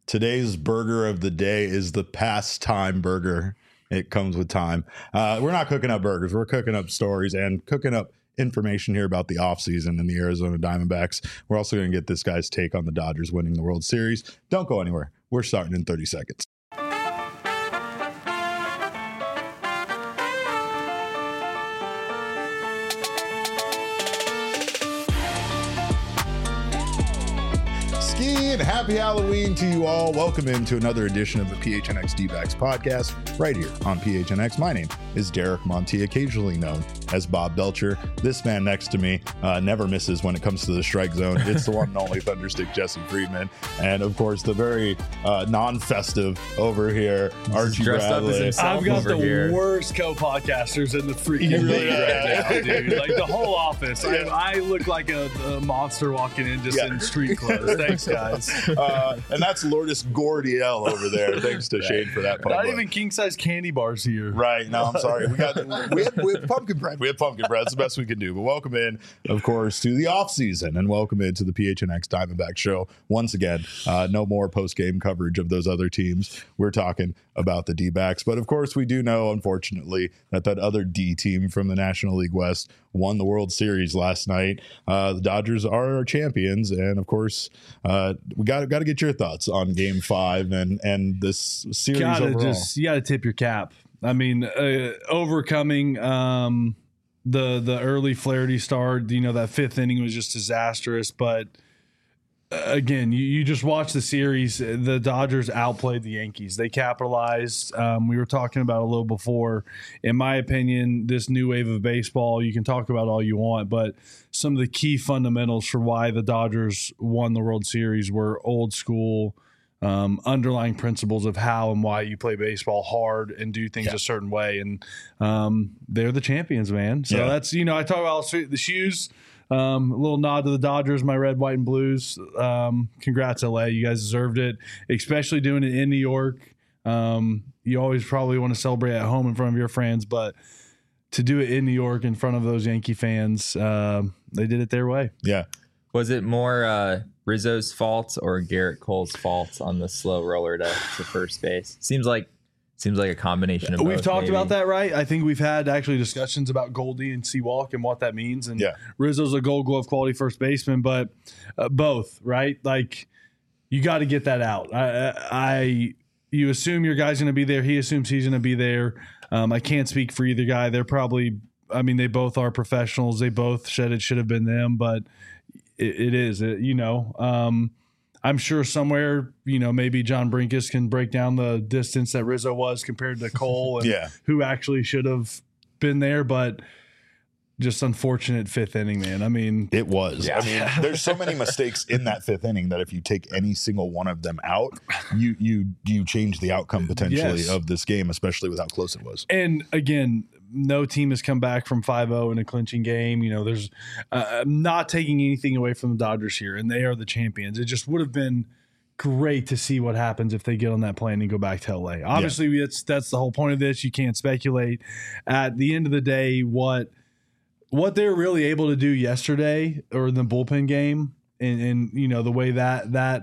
Today's burger of the day is the pastime burger. It comes with time. We're not cooking up burgers. We're cooking up stories and cooking up information here about the offseason in the Arizona Diamondbacks. We're also going to get this guy's take on the Dodgers winning the World Series. Don't go anywhere. We're starting in 30 seconds. And happy Halloween to you all. Welcome into another edition of the PHNX D-Backs podcast right here on PHNX. My name is Derek Monty, occasionally known as Bob Belcher. This man next to me never misses when it comes to the strike zone. It's the one and only Thunderstick Jesse Friedman. And of course, the very non-festive over here, Archie Bradley. I've got the worst co-podcasters in the freaking league right now, dude. Like the whole office. I look like a monster walking in just in street clothes. Thanks, guys. And that's Lourdes Gordiel over there. Thanks to Shane for that. Not even king-size candy bars here. Right. No, I'm sorry. We have pumpkin bread. We have pumpkin bread. It's the best we can do. But welcome in, of course, to the off season, and welcome into the PHNX Diamondback show once again. No more post-game coverage of those other teams. We're talking about the D-backs. But of course, we do know, unfortunately, that other D team from the National League West won the World Series last night. The Dodgers are our champions, and of course, we got to get your thoughts on Game 5 and this series overall. You got to tip your cap. I mean, overcoming the early Flaherty start. That fifth inning was just disastrous, but. Again, you just watch the series. The Dodgers outplayed the Yankees. They capitalized. We were talking about a little before. In my opinion, this new wave of baseball, you can talk about all you want, but some of the key fundamentals for why the Dodgers won the World Series were old school, underlying principles of how and why you play baseball hard and do things a certain way. And they're the champions, man. So that's, I talk about the shoes. A little nod to the Dodgers, my red, white, and blues. Congrats, LA. You guys deserved it, especially doing it in New York. You always probably want to celebrate at home in front of your friends, but to do it in New York in front of those Yankee fans, they did it their way. Yeah. Was it more Rizzo's fault or Garrett Cole's fault on the slow roller to first base? Seems like a combination of both. We've talked about that, right? I think we've had actually discussions about Goldie and Seawalk and what that means. And Rizzo's a Gold Glove quality first baseman, but both, right? Like, you got to get that out. You assume your guy's going to be there. He assumes he's going to be there. I can't speak for either guy. They're probably, they both are professionals. They both said it should have been them, but it is. I'm sure somewhere, maybe John Brinkus can break down the distance that Rizzo was compared to Cole and who actually should have been there, but just unfortunate fifth inning, man. It was. Yeah. There's so many mistakes in that fifth inning that if you take any single one of them out, you change the outcome potentially of this game, especially with how close it was. And again, no team has come back from 5-0 in a clinching game. There's not taking anything away from the Dodgers here, and they are the champions. It just would have been great to see what happens if they get on that plane and go back to LA. Obviously, that's the whole point of this. You can't speculate. At the end of the day, what they're really able to do yesterday or in the bullpen game, and the way that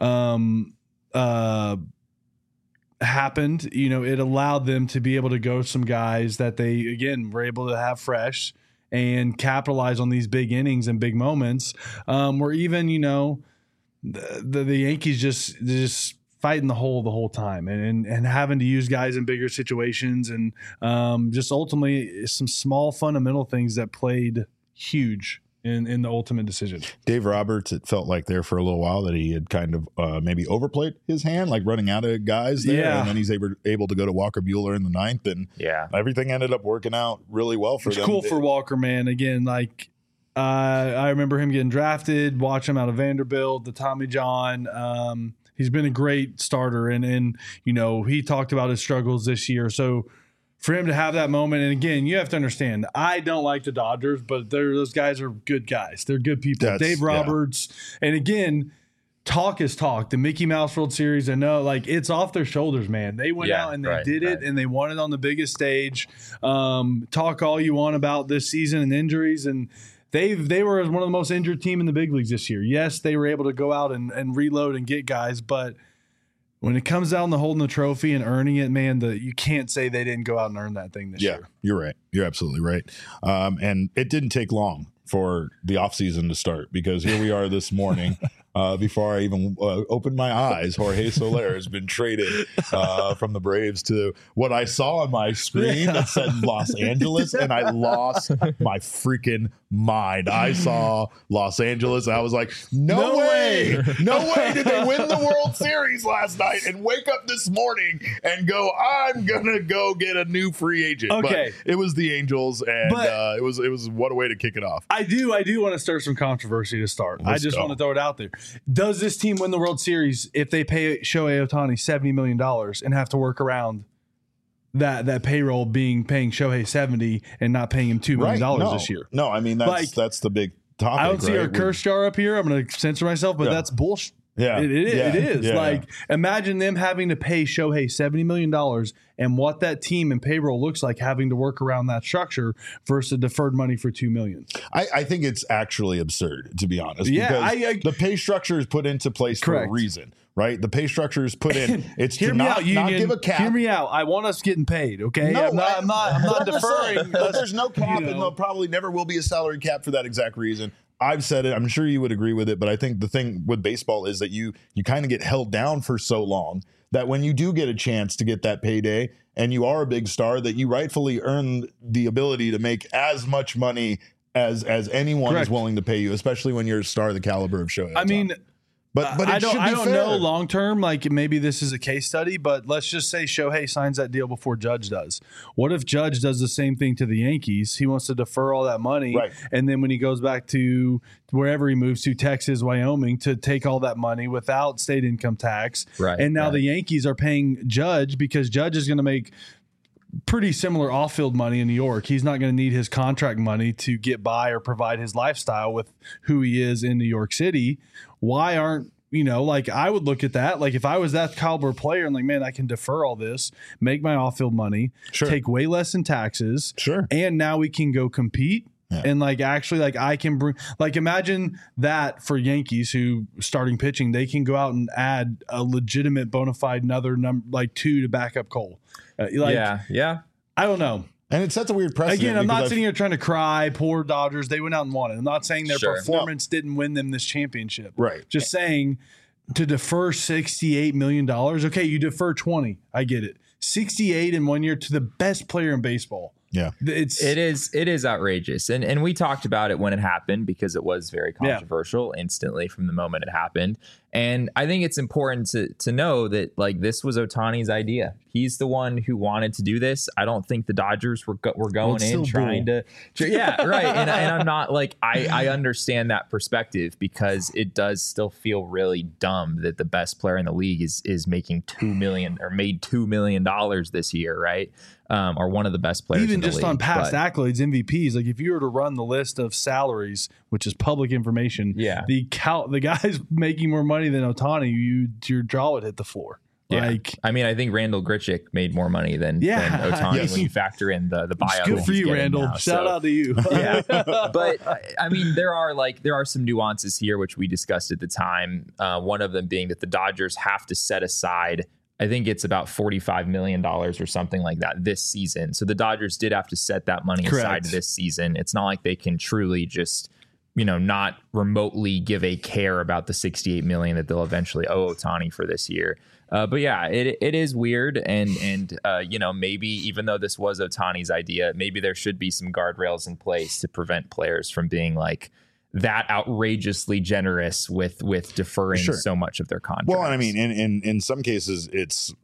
happened, it allowed them to be able to go some guys that they, again, were able to have fresh and capitalize on these big innings and big moments, where even, the Yankees just fighting the whole time and having to use guys in bigger situations and just ultimately some small fundamental things that played huge in the ultimate decision. Dave Roberts, it felt like there for a little while that he had kind of maybe overplayed his hand, like running out of guys there. And then he's able to go to Walker Buehler in the ninth. And everything ended up working out really well for them. It's cool for Walker, man. Again, like I remember him getting drafted, watch him out of Vanderbilt, the Tommy John. He's been a great starter. And he talked about his struggles this year. So for him to have that moment, and again, you have to understand, I don't like the Dodgers, but those guys are good guys. They're good people. Dave Roberts, and again, talk is talk. The Mickey Mouse World Series, I know, like, it's off their shoulders, man. They went out and they did it, and they won it on the biggest stage. Talk all you want about this season and injuries, and they were one of the most injured team in the big leagues this year. Yes, they were able to go out and reload and get guys, but when it comes down to holding the trophy and earning it, man, you can't say they didn't go out and earn that thing this year. You're right. You're absolutely right. And it didn't take long for the offseason to start, because here we are this morning. Before I even opened my eyes, Jorge Soler has been traded from the Braves to what I saw on my screen that said Los Angeles, and I lost my freaking mind. I saw Los Angeles, and I was like, no way did they win the World Series last night and wake up this morning and go, I'm going to go get a new free agent. Okay. But it was the Angels, and it was what a way to kick it off. I do want to stir some controversy to start. I just want to throw it out there. Does this team win the World Series if they pay Shohei Ohtani $70 million and have to work around that payroll paying Shohei 70 and not paying him $2 million this year? No, I mean, that's the big topic. I don't see our curse jar up here. I'm going to censor myself, but that's bullshit. Yeah, it is. Yeah. Like, imagine them having to pay Shohei $70 million and what that team and payroll looks like having to work around that structure versus deferred money for $2 million. I think it's actually absurd, to be honest. Yeah, because the pay structure is put into place for a reason, right? The pay structure is put in. It's to not give a cap. Hear me out. I want us getting paid. Okay, no, I'm not deferring. There's no cap, and there probably never will be a salary cap for that exact reason. I've said it. I'm sure you would agree with it, but I think the thing with baseball is that you kind of get held down for so long that when you do get a chance to get that payday and you are a big star, that you rightfully earn the ability to make as much money as anyone is willing to pay you, especially when you're a star the caliber of Shohei Ohtani. I mean, but I don't know long term. Like, maybe this is a case study, but let's just say Shohei signs that deal before Judge does. What if Judge does the same thing to the Yankees? He wants to defer all that money, and then when he goes back to wherever he moves to, Texas, Wyoming, to take all that money without state income tax, and now the Yankees are paying Judge because Judge is going to make pretty similar off-field money in New York. He's not going to need his contract money to get by or provide his lifestyle with who he is in New York City. Why aren't, like, I would look at that. Like, if I was that caliber player and like, man, I can defer all this, make my off-field money, take way less in taxes, and now we can go compete. Yeah. And like, actually, like, I can bring, like, imagine that for Yankees who starting pitching, they can go out and add a legitimate bona fide another number, like 2 to back up Cole. Yeah. I don't know. And it sets a weird precedent. Again, I'm not sitting here trying to cry, poor Dodgers. They went out and won it. I'm not saying their performance didn't win them this championship. Right. Just saying, to defer $68 million. Okay, you defer 20. I get it. 68 in 1 year to the best player in baseball. Yeah, it is outrageous, and we talked about it when it happened because it was very controversial instantly from the moment it happened. And I think it's important to know that, like, this was Ohtani's idea. He's the one who wanted to do this. I don't think the Dodgers were going in trying to. Yeah, right. And I'm not like, I understand that perspective because it does still feel really dumb that the best player in the league is making $2 million or made $2 million this year, right? Or one of the best players even in the just league. On past accolades, MVPs. Like, if you were to run the list of salaries, which is public information, the guys making more money than Ohtani, your jaw would hit the floor. Yeah. Like, I mean, I think Randall Grichuk made more money than Ohtani when you factor in the buyout. Good for you, Randall. Now. Shout out to you. Yeah, but I mean, there are some nuances here which we discussed at the time. One of them being that the Dodgers have to set aside, I think it's about $45 million or something like that this season. So the Dodgers did have to set that money aside this season. It's not like they can truly just, not remotely give a care about the $68 million that they'll eventually owe Ohtani for this year. But yeah, it is weird. And maybe even though this was Ohtani's idea, maybe there should be some guardrails in place to prevent players from being like that outrageously generous with deferring so much of their contracts. Well, I mean, in some cases, it's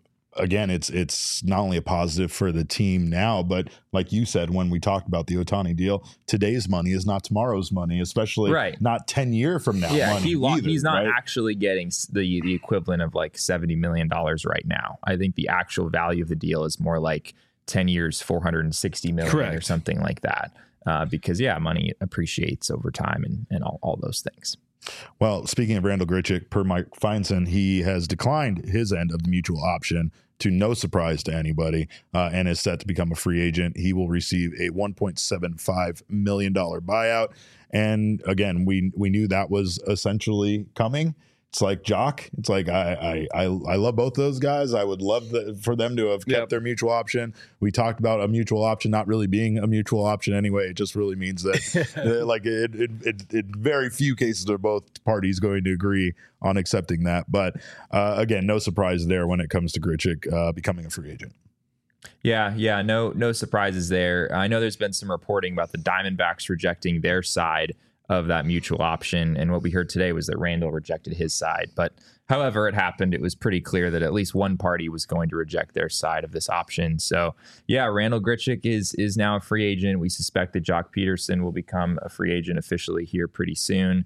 not only a positive for the team now, but like you said, when we talked about the Ohtani deal, today's money is not tomorrow's money, especially not 10 years from now. Yeah, money he's not actually getting the equivalent of like $70 million right now. I think the actual value of the deal is more like 10 years, $460 million or something like that. Because money appreciates over time and all those things. Well, speaking of Randall Grichuk, per Mike Feinson, he has declined his end of the mutual option, to no surprise to anybody, and is set to become a free agent. He will receive a $1.75 million buyout. And again, we knew that was essentially coming. it's like Jock. It's like I love both those guys. I would love for them to have kept their mutual option. We talked about a mutual option not really being a mutual option anyway. It just really means that like it very few cases are both parties going to agree on accepting that. But again, no surprise there when it comes to Grichuk becoming a free agent. Yeah, no surprises there. I know there's been some reporting about the Diamondbacks rejecting their side of that mutual option, and what we heard today was that Randall rejected his side. But however it happened, it was pretty clear that at least one party was going to reject their side of this option. So yeah, Randall Grichuk is now a free agent. We suspect that Jock Peterson will become a free agent officially here pretty soon.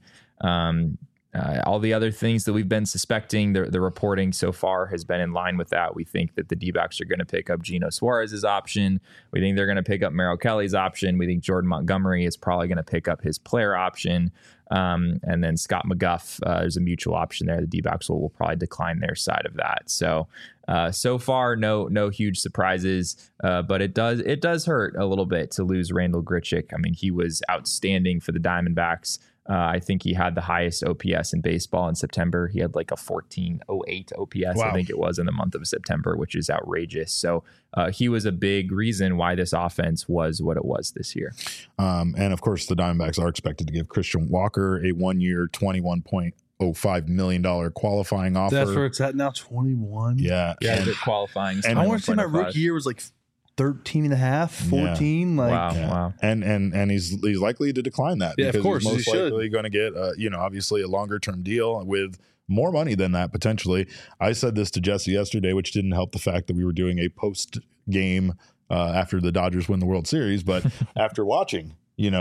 All the other things that we've been suspecting, the reporting so far has been in line with that. We think that the D-backs are going to pick up Geno Suarez's option. We think they're going to pick up Merrill Kelly's option. We think Jordan Montgomery is probably going to pick up his player option. And then Scott McGough, there's a mutual option there. The D-backs will probably decline their side of that. So far, no huge surprises, but it does hurt a little bit to lose Randall Grichuk. I mean, he was outstanding for the Diamondbacks. I think he had the highest OPS in baseball in September. He had like a 1408 OPS, wow. I think it was, in the month of September, which is outrageous. So he was a big reason why this offense was what it was this year. And of course, the Diamondbacks are expected to give Christian Walker a 1-year, $21.05 million qualifying offer. That's where it's at now, 21. Yeah. They're qualifying. And I want to say my rookie year was like 13 and a half, 14. Yeah. Like, wow. And he's likely to decline that because of course, he's most likely going to get obviously a longer term deal with more money than that potentially. I said this to Jesse yesterday, which didn't help the fact that we were doing a post game after the Dodgers win the World Series, but after watching,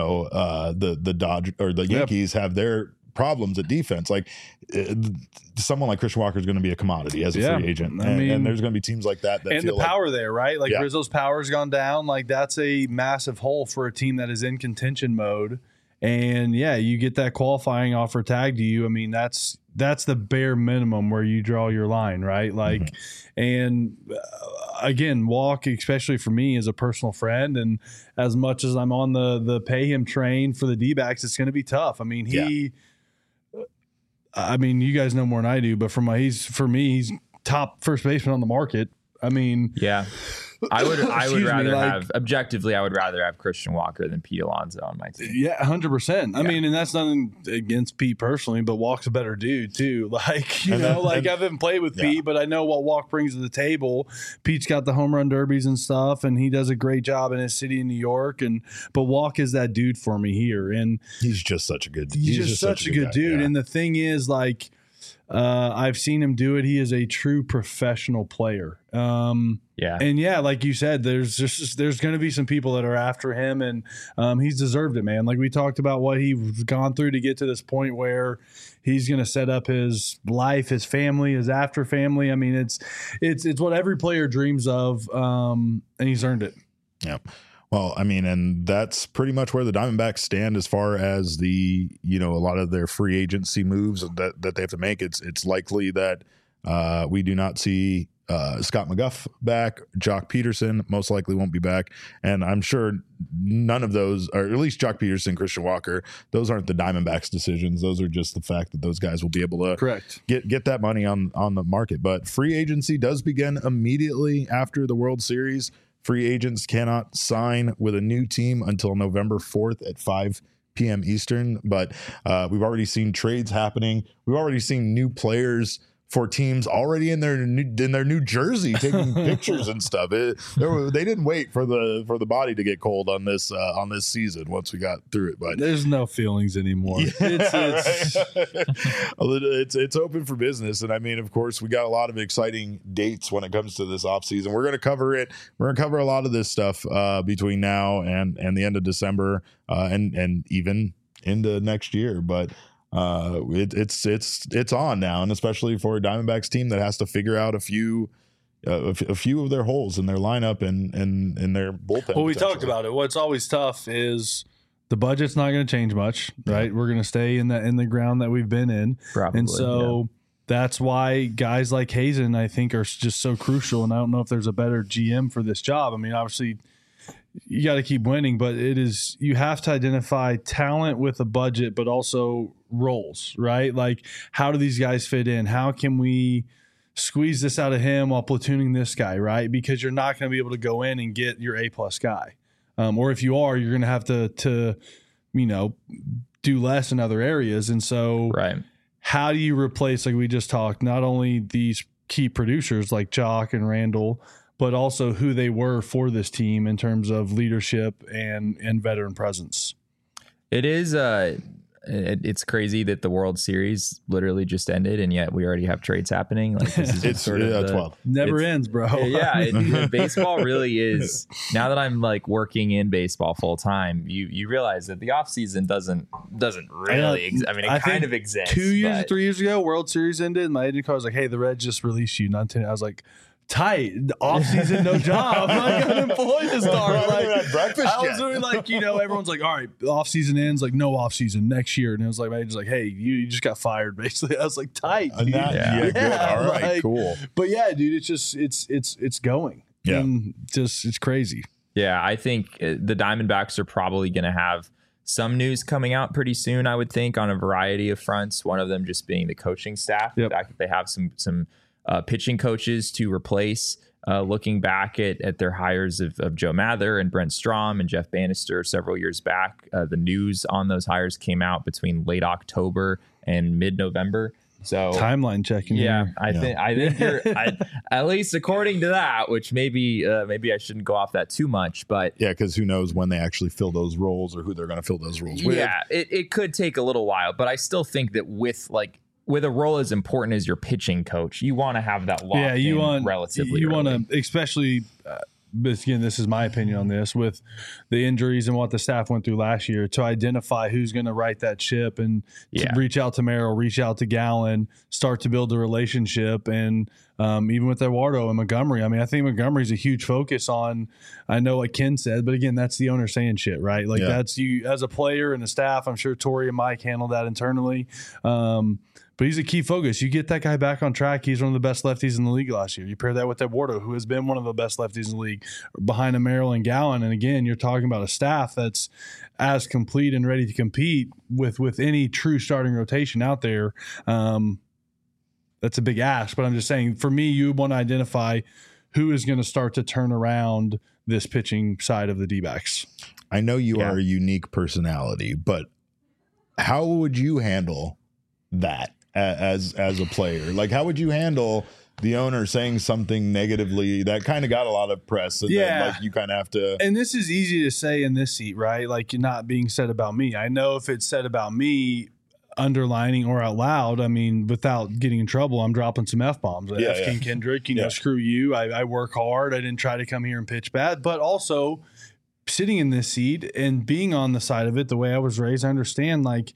the Dodgers or the Yankees have their problems at defense, like someone like Christian Walker is going to be a commodity as a free agent. And there's going to be teams like that and the power there, right? Like Rizzo's power's gone down. Like that's a massive hole for a team that is in contention mode. And you get that qualifying offer tagged to you. I mean, that's the bare minimum where you draw your line, right? Like, and again, Walk, especially for me, is a personal friend. And as much as I'm on the pay him train for the D-backs, it's going to be tough. I mean, I mean, you guys know more than I do, but for me, he's top first baseman on the market. I mean, I would rather I would rather have Christian Walker than Pete Alonso on my team. Yeah, 100%. I mean, and that's nothing against Pete personally, but Walk's a better dude too. Like, I haven't played with Pete, but I know what Walk brings to the table. Pete's got the home run derbies and stuff, and he does a great job in his city in New York. But Walk is that dude for me here, and he's just such a good. He's just such a good dude. Yeah. And the thing is, like, I've seen him do it. He is a true professional player. And like you said, there's going to be some people that are after him, and he's deserved it, man. Like we talked about what he's gone through to get to this point where he's going to set up his life, his family, his after family. I mean, it's what every player dreams of, and he's earned it. Yeah. Well, I mean, and that's pretty much where the Diamondbacks stand as far as the, a lot of their free agency moves that they have to make. It's likely that we do not see Scott McGough back. Jock Peterson most likely won't be back. And I'm sure none of those, or at least Jock Peterson, Christian Walker, those aren't the Diamondbacks decisions. Those are just the fact that those guys will be able to get that money on the market. But free agency does begin immediately after the World Series. Free agents cannot sign with a new team until November 4th at 5 p.m. Eastern. But we've already seen trades happening. We've already seen new players for teams already in their new jersey taking pictures and stuff. They didn't wait for the body to get cold on this season once we got through it. But there's no feelings anymore. It's open for business, and I mean, of course, we got a lot of exciting dates when it comes to this offseason. We're going to cover it. We're going to cover a lot of this stuff between now and the end of December and even into next year. But it's on now, and especially for a Diamondbacks team that has to figure out a few of their holes in their lineup and in their bullpen. Well, we talked about it. What's always tough is the budget's not going to change much, right? We're going to stay in the ground that we've been in, probably, and so that's why guys like Hazen, I think, are just so crucial. And I don't know if there's a better GM for this job. I mean, obviously, you got to keep winning, but you have to identify talent with a budget, but also roles, right? Like, how do these guys fit in? How can we squeeze this out of him while platooning this guy, right? Because you're not going to be able to go in and get your A-plus guy. Or if you are, you're going to have to do less in other areas. And so how do you replace, like we just talked, not only these key producers like Jock and Randall, but also who they were for this team in terms of leadership and veteran presence? It is it's crazy that the World Series literally just ended, and yet we already have trades happening. Like, this is just sort of 12. Never ends, bro. Yeah, baseball really is. Now that I'm like working in baseball full time, you realize that the off season doesn't really. It kind of exists. 2 years or 3 years ago, World Series ended, and my agent call was like, "Hey, the Reds just released you." I was like, tight, off season, no job. I'm like unemployed to start. Like, breakfast I was really like, everyone's like, all right, off season ends, like no off season next year, and it was like, my agent's like, hey, you just got fired, basically. I was like, tight, dude. Good. All right, like, cool. But yeah, dude, it's just it's going. Yeah, and just it's crazy. Yeah, I think the Diamondbacks are probably going to have some news coming out pretty soon, I would think, on a variety of fronts. One of them just being the coaching staff. Yep. The fact that they have some pitching coaches to replace. Looking back at their hires of Joe Mather and Brent Strom and Jeff Bannister several years back, the news on those hires came out between late October and mid-November. So timeline checking. Yeah, here. I think you're at least according to that, which maybe I shouldn't go off that too much, but yeah, because who knows when they actually fill those roles or who they're going to fill those roles with. Yeah, it could take a little while, but I still think that with a role as important as your pitching coach, you want to have that locked in relatively. You want to, especially. But again, this is my opinion on this, with the injuries and what the staff went through last year, to identify who's going to right that ship and to reach out to Merrill, reach out to Gallen, start to build a relationship. And even with Eduardo and Montgomery, I think Montgomery's a huge focus on, I know what Ken said, but again, that's the owner saying shit, right? Like that's you as a player and the staff. I'm sure Torrey and Mike handled that internally. But he's a key focus. You get that guy back on track. He's one of the best lefties in the league last year. You pair that with Eduardo, who has been one of the best lefties in the league, behind a Merrill and Gallen. And again, you're talking about a staff that's as complete and ready to compete with any true starting rotation out there. That's a big ask. But I'm just saying, for me, you want to identify who is going to start to turn around this pitching side of the D-backs. I know you are a unique personality, but how would you handle that as a player? Like, how would you handle the owner saying something negatively that kind of got a lot of press, and then, like, you kind of have to? And this is easy to say in this seat, right? Like, not being said about me. I know if it's said about me, underlining or out loud, without getting in trouble, I'm dropping some F-bombs. King Kendrick, screw you. I work hard. I didn't try to come here and pitch bad. But also, sitting in this seat and being on the side of it, the way I was raised, I understand, like,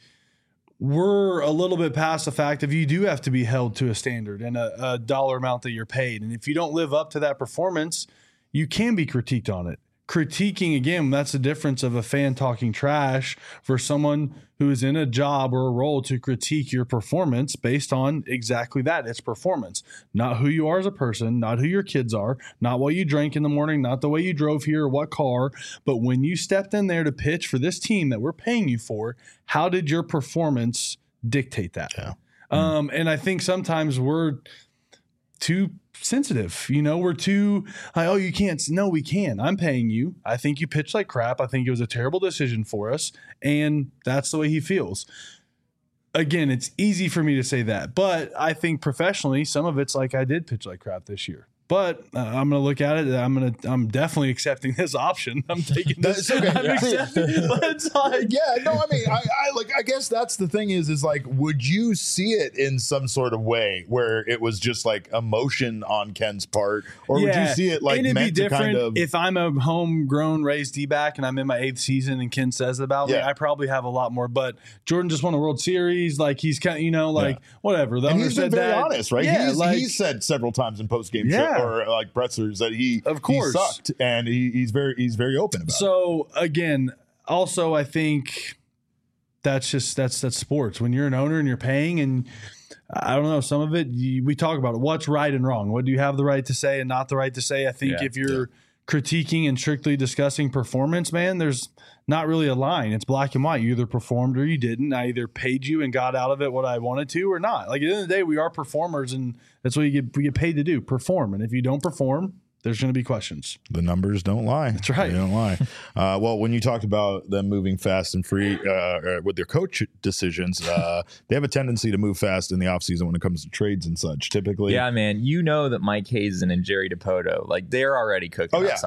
we're a little bit past the fact of you do have to be held to a standard and a dollar amount that you're paid. And if you don't live up to that performance, you can be critiqued on it. Critiquing, again, that's the difference of a fan talking trash for someone who is in a job or a role to critique your performance based on exactly that. It's performance, not who you are as a person, not who your kids are, not what you drank in the morning, not the way you drove here or what car, but when you stepped in there to pitch for this team that we're paying you for, how did your performance dictate that? Yeah. And I think sometimes we're too sensitive, we're too like, oh, you can't. No, we can. I'm paying you. I think you pitched like crap. I think it was a terrible decision for us, and that's the way he feels. Again, it's easy for me to say that, but I think professionally, some of it's like, I did pitch like crap this year. But I'm going to look at it. I'm definitely accepting this option. I'm taking this. Okay. I'm accepting it, but it's like, I guess that's the thing is like, would you see it in some sort of way where it was just like emotion on Ken's part, or would you see it like meant to kind of? If I'm a homegrown raised D-back and I'm in my 8th season and Ken says about me, I probably have a lot more. But Jordan just won a World Series. Like, he's kind of, whatever. The and owner he's been said very that. honest, right? Yeah, he's said several times in post-game show, or like Bretzler's, that he sucked, and he's very open about it. So again, also, I think that's sports. When you're an owner and you're paying, and I don't know, some of it we talk about it. What's right and wrong? What do you have the right to say and not the right to say? I think if you're critiquing and strictly discussing performance, man, there's not really a line. It's black and white. You either performed or you didn't. I either paid you and got out of it what I wanted to or not. Like, at the end of the day, we are performers, and that's what we get paid to do, perform. And if you don't perform, there's going to be questions. The numbers don't lie. That's right. They don't lie. Well, when you talked about them moving fast and free with their coach decisions, they have a tendency to move fast in the offseason when it comes to trades and such. Typically, yeah, man. You know that Mike Hazen and Jerry DiPoto, like, they're already cooking. They've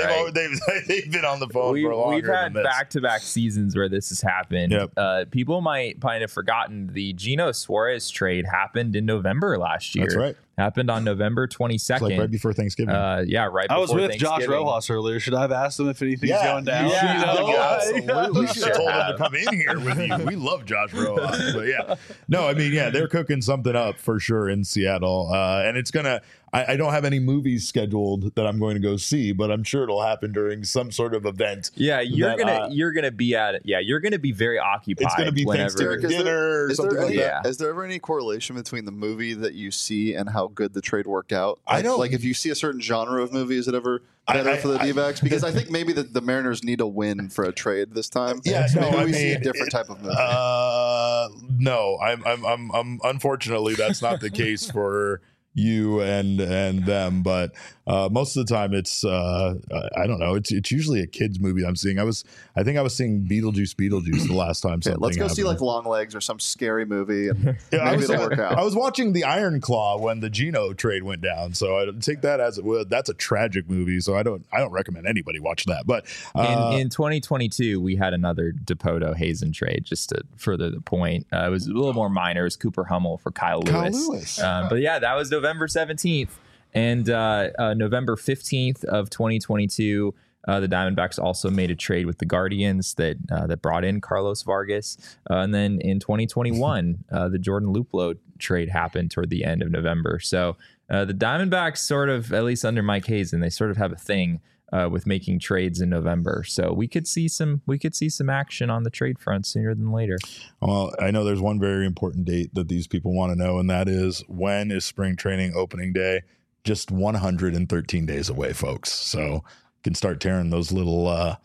been on the phone for longer. We've had than this. back-to-back seasons where this has happened. Yep. People might have forgotten the Geno Suarez trade happened in November last year. That's right. Happened on November 22nd. It's like right before Thanksgiving. Yeah, right before I was with Thanksgiving. Josh Rojas earlier. Should I have asked him if anything's going down? Absolutely. You should have told him to come in here with you. We love Josh Rojas. But yeah. No, I mean, yeah, they're cooking something up for sure in Seattle. And it's going to, I don't have any movies scheduled that I'm going to go see, but I'm sure it'll happen during some sort of event. Yeah, you're gonna be at it. Yeah, you're gonna be very occupied. It's gonna be Thanksgiving dinner or something like that. Is there ever any correlation between the movie that you see and how good the trade worked out? I don't. Like, if you see a certain genre of movie, is it ever better for the D-backs? Because I think maybe the Mariners need a win for a trade this time. Yeah, so no, maybe we see a different type of movie. No, I'm unfortunately that's not the case for you and them, but most of the time it's I don't know, it's usually a kids movie I'm seeing. I think I was seeing Beetlejuice the last time. Okay, let's go see like Long Legs or some scary movie, and maybe it'll work out. I was watching The Iron Claw when the Geno trade went down, so I take that as that's a tragic movie, so I don't recommend anybody watch that. But in 2022 we had another DiPoto Hazen trade, just to further the point. It was a little more minor. It was Cooper Hummel for Kyle Lewis. But yeah, that was November 17th. And November 15th of 2022, the Diamondbacks also made a trade with the Guardians that brought in Carlos Vargas. And then in 2021, the Jordan Luplow trade happened toward the end of November. So the Diamondbacks sort of, at least under Mike Hazen, they sort of have a thing with making trades in November. So we could see some action on the trade front sooner than later. Well, I know there's one very important date that these people want to know, and that is, when is spring training opening day? Just 113 days away, folks. So you can start tearing those little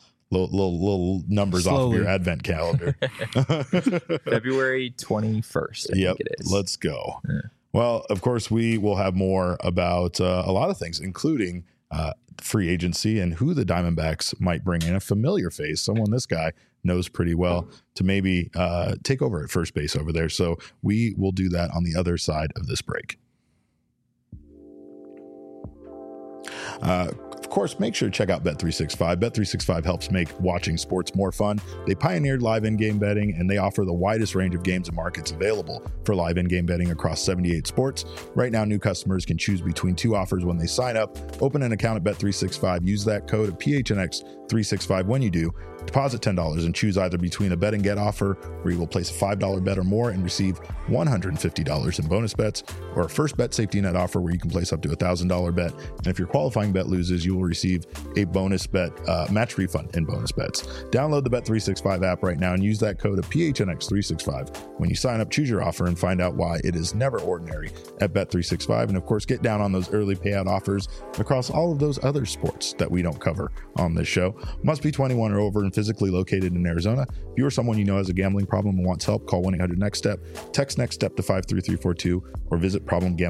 numbers Slowly off of your advent calendar. February 21st, I think it is. Let's go. Yeah. Well, of course, we will have more about a lot of things, including free agency and who the Diamondbacks might bring in, a familiar face, someone this guy knows pretty well, to maybe take over at first base over there. So we will do that on the other side of this break. Of course, make sure to check out Bet365. Bet365 helps make watching sports more fun. They pioneered live in-game betting, and they offer the widest range of games and markets available for live in-game betting across 78 sports. Right now, new customers can choose between two offers when they sign up. Open an account at Bet365. Use that code of PHNX365 when you do. Deposit $10 and choose either between a bet and get offer, where you will place a $5 bet or more and receive $150 in bonus bets, or a first bet safety net offer where you can place up to $1,000 bet. And if your qualifying bet loses, you will receive a bonus bet match refund in bonus bets. Download the Bet365 app right now and use that code of PHNX365 when you sign up. Choose your offer and find out why it is never ordinary at Bet365. And of course, get down on those early payout offers across all of those other sports that we don't cover on this show. Must be 21 or over and physically located in Arizona. If you or someone you know has a gambling problem and wants help, call 1-800-NEXT-STEP, text NEXT STEP to 53342, or visit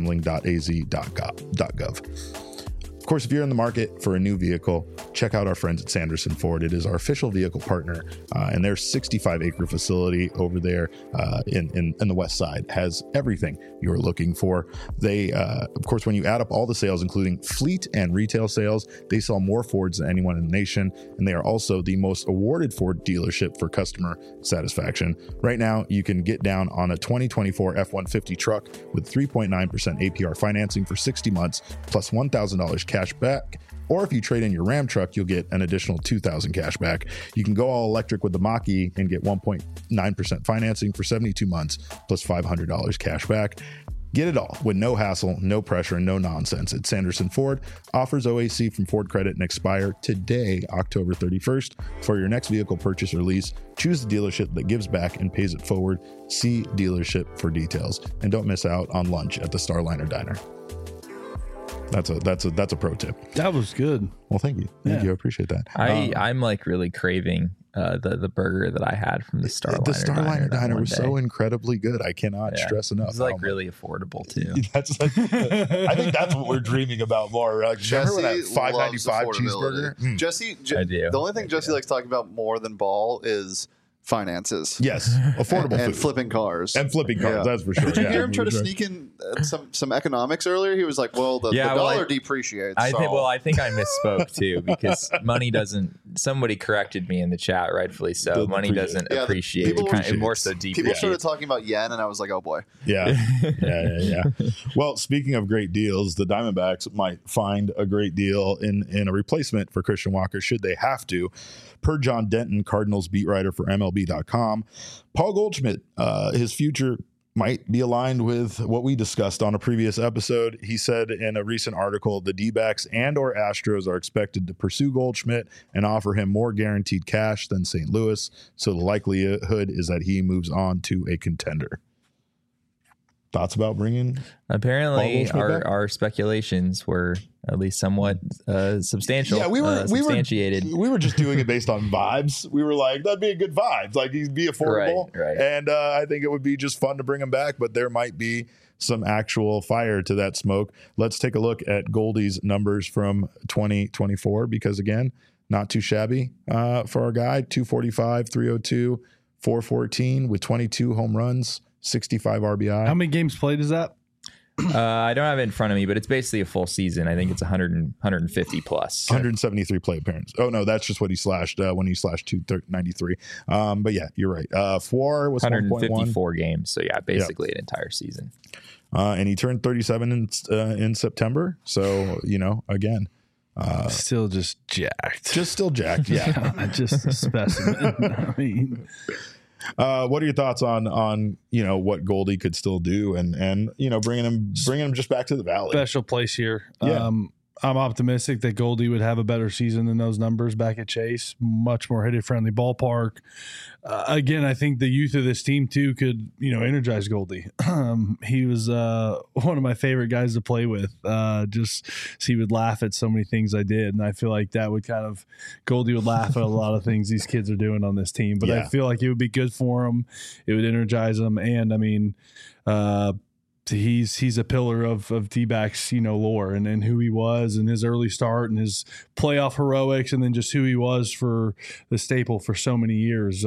problemgambling.az.gov. Of course, if you're in the market for a new vehicle, check out our friends at Sanderson Ford. It is our official vehicle partner, and their 65-acre facility over there in the west side has everything you're looking for. They, of course, when you add up all the sales, including fleet and retail sales, they sell more Fords than anyone in the nation, and they are also the most awarded Ford dealership for customer satisfaction. Right now, you can get down on a 2024 F-150 truck with 3.9% APR financing for 60 months, plus $1,000 cash back. Or if you trade in your Ram truck, you'll get an additional $2,000 cash back. You can go all electric with the Mach-E and get 1.9% financing for 72 months, plus $500 cash back. Get it all with no hassle, no pressure, and no nonsense at Sanderson Ford. Offers OAC from Ford Credit and expire today, October 31st. For your next vehicle purchase or lease, choose the dealership that gives back and pays it forward. See dealership for details. And don't miss out on lunch at the Starliner Diner. That's a pro tip. That was good. Well, thank you. Thank you. I appreciate that. I'm like really craving the burger that I had from the Starliner. The Starliner Diner was so incredibly good. I cannot stress enough. It's like really affordable too. I think that's what we're dreaming about more. Like, remember that $5.95 cheeseburger? Jesse, I do. The only thing Jesse likes talking about more than ball is finances. Yes, affordable and food. flipping cars. And flipping cars, that's for sure. Did you hear him try to sneak in some economics earlier? He was like, well, the dollar depreciates. I think I misspoke too, because money doesn't, somebody corrected me in the chat, rightfully so. Money doesn't appreciate. It more so depreciates. People started talking about yen, and I was like, oh boy. Yeah. Well, speaking of great deals, the Diamondbacks might find a great deal in a replacement for Christian Walker should they have to. Per John Denton, Cardinals beat writer for MLB.com, Paul Goldschmidt, his future might be aligned with what we discussed on a previous episode. He said in a recent article, the D-backs and or Astros are expected to pursue Goldschmidt and offer him more guaranteed cash than St. Louis. So the likelihood is that he moves on to a contender. Thoughts about bringing? Apparently, our speculations were at least somewhat substantial. Yeah, we were just doing it based on vibes. We were like, that'd be a good vibe. Like, he'd be affordable, right. And I think it would be just fun to bring him back. But there might be some actual fire to that smoke. Let's take a look at Goldie's numbers from 2024 because again, not too shabby for our guy. 245, 302, 414 with 22 home runs. 65 RBI. How many games played is that? I don't have it in front of me, but it's basically a full season. I think it's 150 plus. 173 play appearances. Oh, no, that's just what he slashed when he slashed 293. But yeah, you're right. FWAR was 154 games. So yeah, basically an entire season. And he turned 37 in September. So, again. Still just jacked. Still jacked, yeah. Just a specimen. I mean... what are your thoughts on what Goldie could still do and bringing him just back to the Valley? Special place here. Yeah. I'm optimistic that Goldie would have a better season than those numbers back at Chase. Much more hitter-friendly ballpark. Again, I think the youth of this team, too, could, energize Goldie. He was one of my favorite guys to play with. Just so he would laugh at so many things I did. And I feel like that would Goldie would laugh at a lot of things these kids are doing on this team. But I feel like it would be good for him. It would energize him. And, I mean, he's a pillar of D-backs, lore and who he was and his early start and his playoff heroics and then just who he was for the staple for so many years.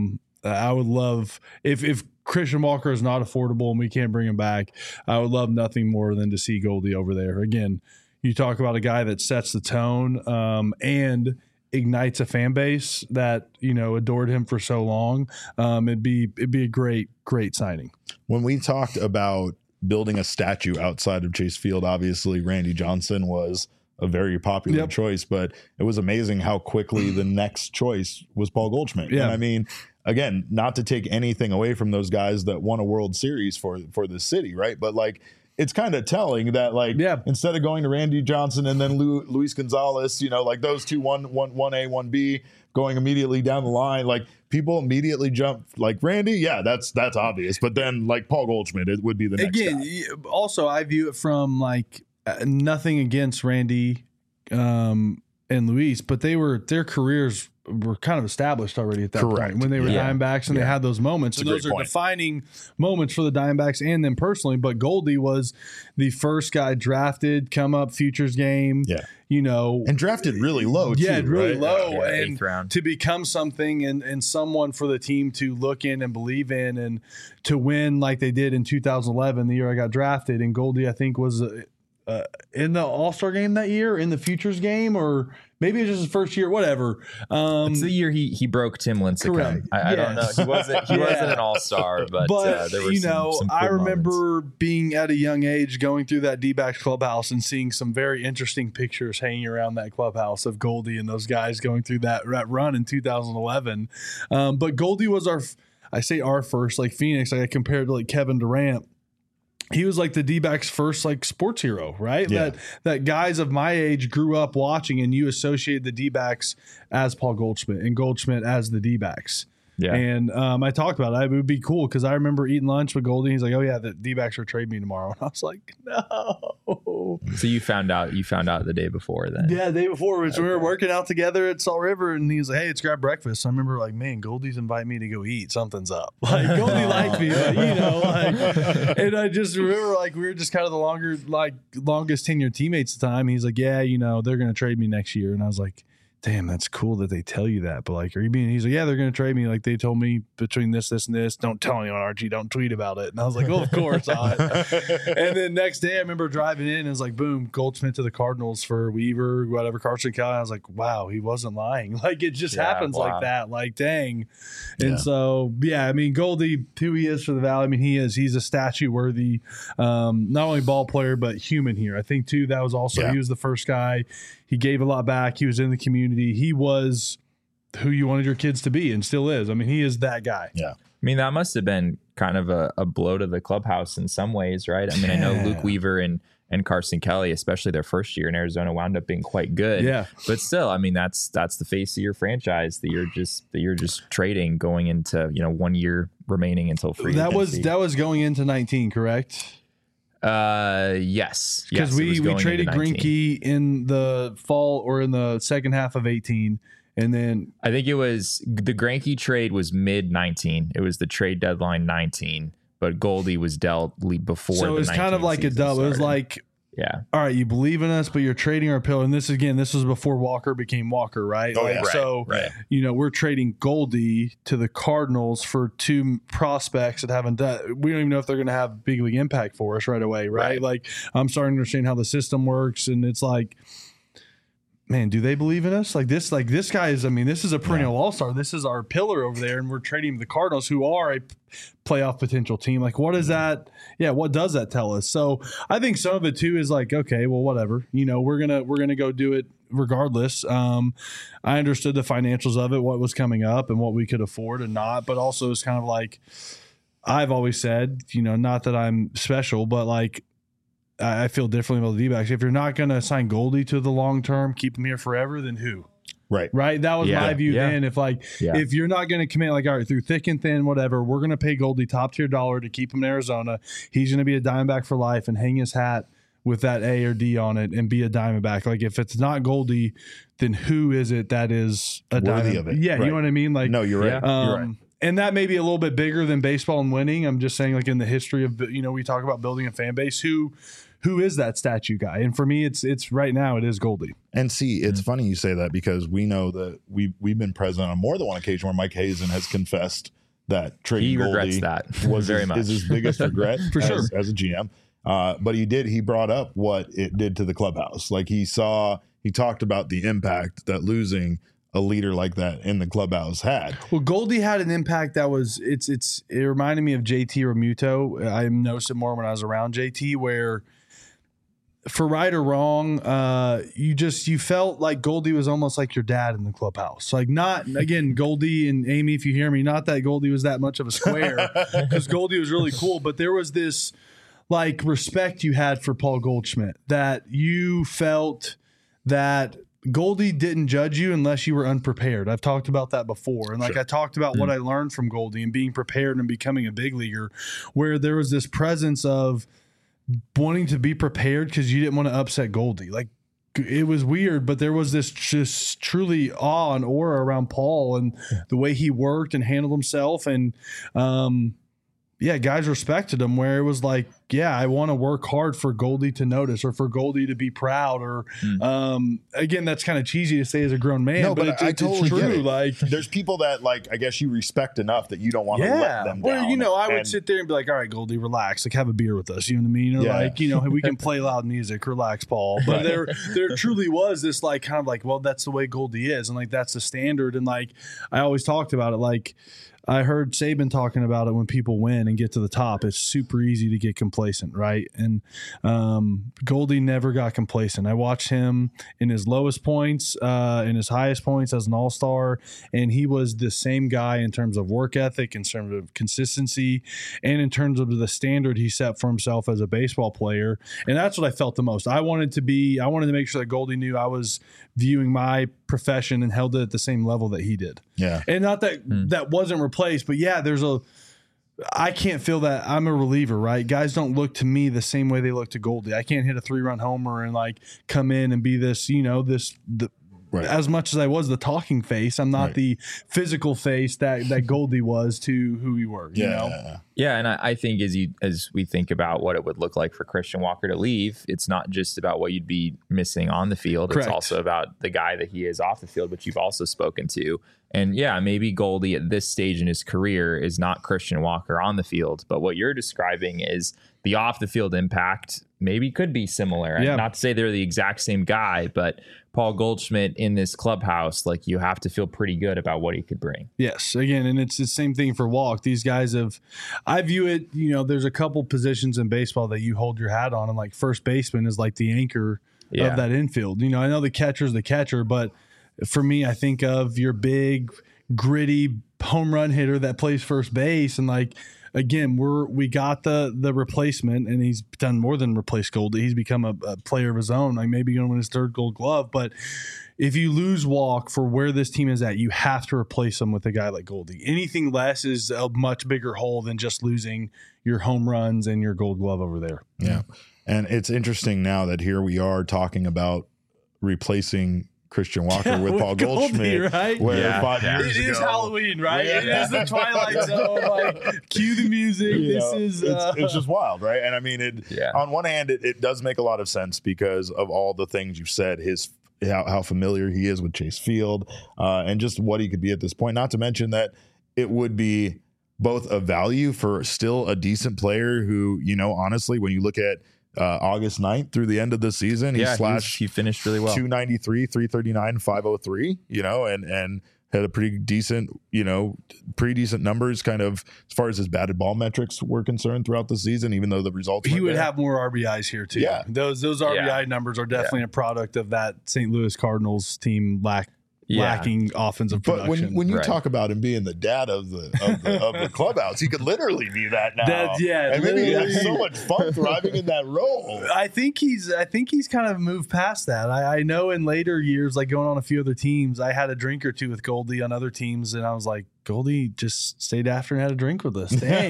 I would love if Christian Walker is not affordable and we can't bring him back, I would love nothing more than to see Goldie over there. Again, you talk about a guy that sets the tone and ignites a fan base that, adored him for so long. It'd be a great signing. When we talked about building a statue outside of Chase Field, obviously Randy Johnson was a very popular choice, but it was amazing how quickly the next choice was Paul Goldschmidt. Yeah. And I mean, again, not to take anything away from those guys that won a World Series for the city, right? But it's kind of telling that instead of going to Randy Johnson and then Luis Gonzalez, those two, 1A, 1B, going immediately down the line, people immediately jump Randy. Yeah, that's obvious. But then Paul Goldschmidt, it would be the next guy. Also, I view it from nothing against Randy and Luis, but their careers were kind of established already at that point when they were Diamondbacks and they had those moments. And those are defining moments for the Diamondbacks and them personally. But Goldie was the first guy drafted, come up futures game. Yeah. And drafted really low, too. Yeah, really low. Yeah, and 8th round. To become something and someone for the team to look in and believe in and to win like they did in 2011, the year I got drafted. And Goldie, I think, was in the All-Star game that year, in the futures game, or maybe it was just his first year, whatever. It's the year he broke Tim Lincecum. I don't know. He wasn't an all-star, but there were some cool I remember moments. being at a young age going through that D-backs clubhouse and seeing some very interesting pictures hanging around that clubhouse of Goldie and those guys going through that run in 2011. But Goldie was our first, Phoenix, I compared to Kevin Durant. He was the D-backs first sports hero, right? Yeah. That guys of my age grew up watching, and you associated the D-backs as Paul Goldschmidt and Goldschmidt as the D-backs. Yeah. And I talked about it. It would be cool because I remember eating lunch with Goldie. He's like, "Oh yeah, the D-backs are trading me tomorrow," and I was like, "No." no. So you found out the day before then. Yeah, the day before, we were working out together at Salt River, and he was like, "Hey, let's grab breakfast." So I remember like, man, Goldie's inviting me to go eat. Something's up. Like Goldie liked me, but and I just remember like we were just kind of the longest tenured teammates at the time. He's like, "Yeah, they're gonna trade me next year," and I was like, damn, that's cool that they tell you that. But like, are you being, he's like, yeah, they're going to trade me. Like they told me between this, and this, don't tell anyone, Archie, don't tweet about it. And I was like, well, of course not. And then next day I remember driving in and it's like, boom, Goldschmidt to the Cardinals for Weaver, whatever, Carson Kelly. I was like, wow, he wasn't lying. Like it just happens like that. Like, dang. And so, yeah, I mean, Goldie, who he is for the Valley. I mean, he's a statue worthy, not only ball player, but human here. I think too, that was also, he was the first guy. He gave a lot back. He was in the community. He was who you wanted your kids to be and still is. I mean, he is that guy. Yeah. I mean, that must have been kind of a blow to the clubhouse in some ways, right? I mean, I know Luke Weaver and Carson Kelly, especially their first year in Arizona, wound up being quite good. Yeah. But still, I mean, that's the face of your franchise that you're just trading going into, 1 year remaining until free agency. That was going into 19, correct? Yes. Because we traded Greinke in the fall or in the second half of 18. And then I think it was the Greinke trade was mid 19. It was the trade deadline 19, but Goldie was dealt before. So it was kind of like a double. It was like, yeah, all right, you believe in us, but you're trading our pillar. And this was before Walker became Walker, right? Oh, yeah. Right. We're trading Goldie to the Cardinals for two prospects that haven't done. We don't even know if they're going to have big league impact for us right away, right? Like I'm starting to understand how the system works, and it's like, man, do they believe in us? Like this guy is, I mean, this is a perennial all-star. This is our pillar over there, and we're trading the Cardinals, who are a playoff potential team. Like, what is that? Yeah, what does that tell us? So I think some of it too is like, okay, well, whatever. We're gonna go do it regardless. I understood the financials of it, what was coming up, and what we could afford and not. But also, it's kind of like I've always said, not that I'm special, but like, I feel differently about the D-backs. If you're not going to sign Goldie to the long term, keep him here forever, then who? Right. That was my view then. If you're not going to commit, like, all right, through thick and thin, whatever, we're going to pay Goldie top tier dollar to keep him in Arizona. He's going to be a Diamondback for life and hang his hat with that A or D on it and be a Diamondback. Like, if it's not Goldie, then who is it that is a worthy of it? Yeah, you know what I mean? Like, no, you're right. You're right. And that may be a little bit bigger than baseball and winning. I'm just saying, like, in the history of, we talk about building a fan base, who is that statue guy? And for me, it's right now, it is Goldie. And see, it's funny you say that, because we know that we've been present on more than one occasion where Mike Hazen has confessed that trading Goldie regrets that was very much is his biggest regret for sure as a GM. But he brought up what it did to the clubhouse. Like he talked about the impact that losing a leader like that in the clubhouse had. Well, Goldie had an impact that was it reminded me of JT Realmuto. I noticed it more when I was around JT, where for right or wrong, you felt like Goldie was almost like your dad in the clubhouse. Like, not, again, Goldie and Amy, if you hear me, not that Goldie was that much of a square, because Goldie was really cool, but there was this like respect you had for Paul Goldschmidt, that you felt that Goldie didn't judge you unless you were unprepared. I've talked about that before. And I talked about what I learned from Goldie and being prepared and becoming a big leaguer, where there was this presence of wanting to be prepared because you didn't want to upset Goldie. Like, it was weird, but there was this just truly awe and aura around Paul and the way he worked and handled himself. And, guys respected him, where it was like, I want to work hard for Goldie to notice, or for Goldie to be proud, or again, that's kind of cheesy to say as a grown man, but I totally true. Get it. Like, there's people that, like, I guess you respect enough that you don't want to let them down. Well, I would sit there and be like, all right, Goldie, relax, like, have a beer with us. You know what I mean? Like, we can play loud music, relax, Paul. But there truly was this, like, kind of like, well, that's the way Goldie is, and like, that's the standard. And like, I always talked about it, like, I heard Saban talking about it when people win and get to the top. It's super easy to get complacent, right? And Goldie never got complacent. I watched him in his lowest points, in his highest points as an all-star, and he was the same guy in terms of work ethic, in terms of consistency, and in terms of the standard he set for himself as a baseball player. And that's what I felt the most. I wanted to make sure that Goldie knew I was viewing my profession and held it at the same level that he did. Yeah. And not that that wasn't replaced, but there's a, I don't know if you know, like, Goldie, like, he was a, he was a I can't feel that. I'm a reliever, right? Guys don't look to me the same way they look to Goldie. I can't hit a 3-run homer and like come in and be this, Right. as much as I was the talking face, I'm not the physical face that Goldie was to who we were. You know? Yeah, and I think as we think about what it would look like for Christian Walker to leave, it's not just about what you'd be missing on the field. Correct. It's also about the guy that he is off the field, which you've also spoken to. And yeah, maybe Goldie at this stage in his career is not Christian Walker on the field, but what you're describing is the off the field impact maybe could be similar. Yeah. Not to say they're the exact same guy, but Paul Goldschmidt in this clubhouse, like you have to feel pretty good about what he could bring. Yes. Again, and it's the same thing for Walk. These guys I view it, there's a couple positions in baseball that you hold your hat on, and like first baseman is like the anchor of that infield. I know the catcher's the catcher, but for me, I think of your big, gritty home run hitter that plays first base. And like, again, we got the replacement, and he's done more than replace Goldie. He's become a player of his own, like maybe going to win his 3rd Gold Glove. But if you lose Walk for where this team is at, you have to replace him with a guy like Goldie. Anything less is a much bigger hole than just losing your home runs and your Gold Glove over there. Yeah. And it's interesting now that here we are talking about replacing Christian Walker with Paul Goldschmidt, right? Where 5 years It is ago, Halloween, right? It is the Twilight Zone. Like, cue the music. It's just wild, right? And I mean, on one hand, it does make a lot of sense because of all the things you've said. How familiar he is with Chase Field, and just what he could be at this point. Not to mention that it would be both a value for still a decent player who, honestly, when you look at August 9th through the end of the season, he finished really well. 293, 339, 503, and had a pretty decent numbers kind of as far as his batted ball metrics were concerned throughout the season, even though the results he would have more RBIs here too. Yeah. Those RBI numbers are definitely a product of that St. Louis Cardinals team lacking offensive production. But when you talk about him being the dad of the clubhouse, he could literally be that now. And maybe he has so much fun thriving in that role. I think he's kind of moved past that. I know in later years, like going on a few other teams, I had a drink or two with Goldie on other teams, and I was like, Goldie just stayed after and had a drink with us. Dang,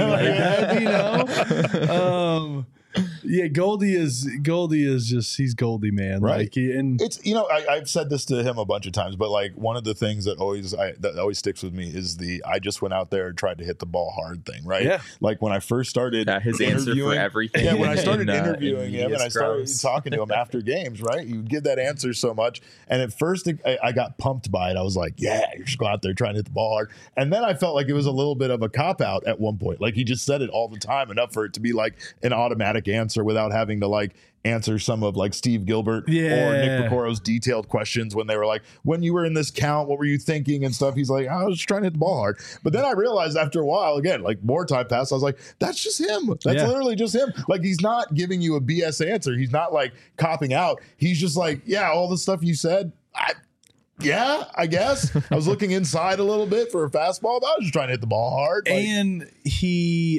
yeah, Goldie is just, he's Goldie, man. Right. Like, and it's, I've said this to him a bunch of times, but like one of the things that always sticks with me is I just went out there and tried to hit the ball hard thing, right? Yeah. Like when I first started his answer for everything. Yeah, when I started interviewing him and I started talking to him after games, right? You give that answer so much. And at first I got pumped by it. I was like, yeah, you're just going out there trying to hit the ball hard. And then I felt like it was a little bit of a cop-out at one point. Like he just said it all the time, enough for it to be like an automatic answer without having to like answer some of like Steve Gilbert or Nick Picoro's detailed questions when they were like, when you were in this count, what were you thinking and stuff? He's like, I was just trying to hit the ball hard. But then I realized after a while, again, like more time passed, I was like, that's just him. That's literally just him. Like he's not giving you a BS answer. He's not like copping out. He's just like, yeah, all the stuff you said, I guess. I was looking inside a little bit for a fastball, but I was just trying to hit the ball hard. And he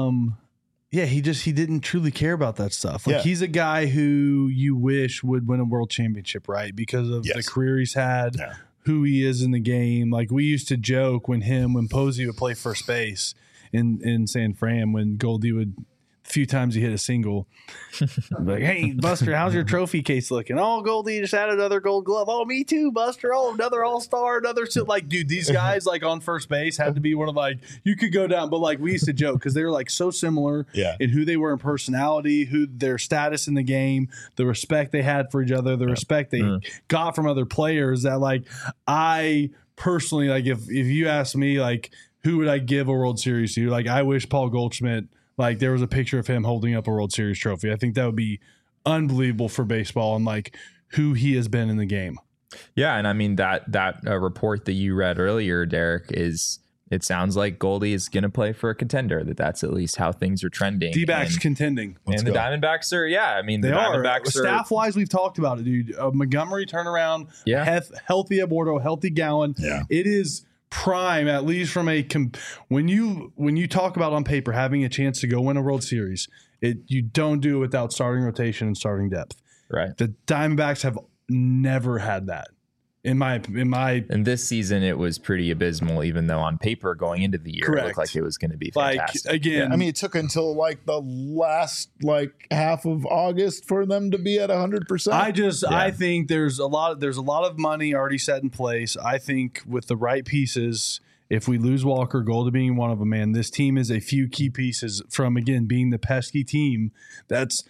didn't truly care about that stuff. Like he's a guy who you wish would win a world championship, right? Because of the career he's had, who he is in the game. Like we used to joke when Posey would play first base in San Fran, when Goldie would, a few times he hit a single, like, hey Buster, how's your trophy case looking? Oh, Goldie just had another Gold Glove. Oh, me too, Buster. Oh, another All-Star, like, dude, these guys like on first base had to be one of, like, you could go down, but like we used to joke because they were like so similar in who they were in personality, who their status in the game, the respect they had for each other, the respect they got from other players, that like I personally, like if you ask me like who would I give a World Series to, like I wish Paul Goldschmidt, like there was a picture of him holding up a World Series trophy. I think that would be unbelievable for baseball and like who he has been in the game. Yeah, and I mean that report that you read earlier, Derek, it sounds like Goldie is going to play for a contender. That's at least how things are trending. D-backs contending. And the Diamondbacks are, they are. Staff-wise, we've talked about it, dude. Montgomery turnaround, healthy Aborto, healthy Gowan. Yeah. It is prime, at least from when you talk about on paper having a chance to go win a World Series, you don't do it without starting rotation and starting depth. Right. The Diamondbacks have never had that. And this season it was pretty abysmal, even though on paper going into the year Correct. it looked like it was going to be fantastic. Like again, I mean, it took until like the last half of August for them to be at 100%. I think there's a lot of money already set in place. I think with the right pieces, if we lose Walker, Goldie being one of them, man, this team is a few key pieces from, again, being the pesky team that's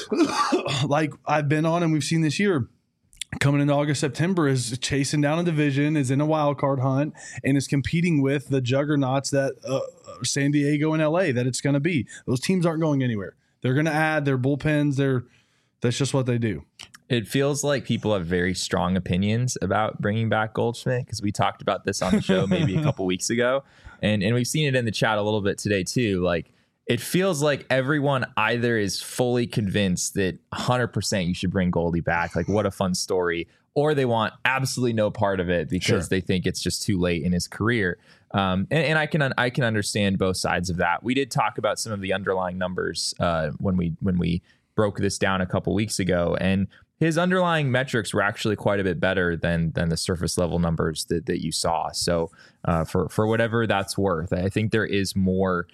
like I've been on and we've seen this year. Coming into August, September is chasing down a division, is in a wild card hunt, and is competing with the juggernauts that San Diego and LA that it's going to be. Those teams aren't going anywhere. They're going to add their bullpens. That's just what they do. It feels like people have very strong opinions about bringing back Goldschmidt because we talked about this on the show maybe a couple weeks ago, and we've seen it in the chat a little bit today too. Like, it feels like everyone either is fully convinced that 100% you should bring Goldie back, like what a fun story, or they want absolutely no part of it because they think it's just too late in his career. And I can understand both sides of that. We did talk about some of the underlying numbers when we broke this down a couple weeks ago, and his underlying metrics were actually quite a bit better than the surface level numbers that you saw. So for whatever that's worth, I think there is more.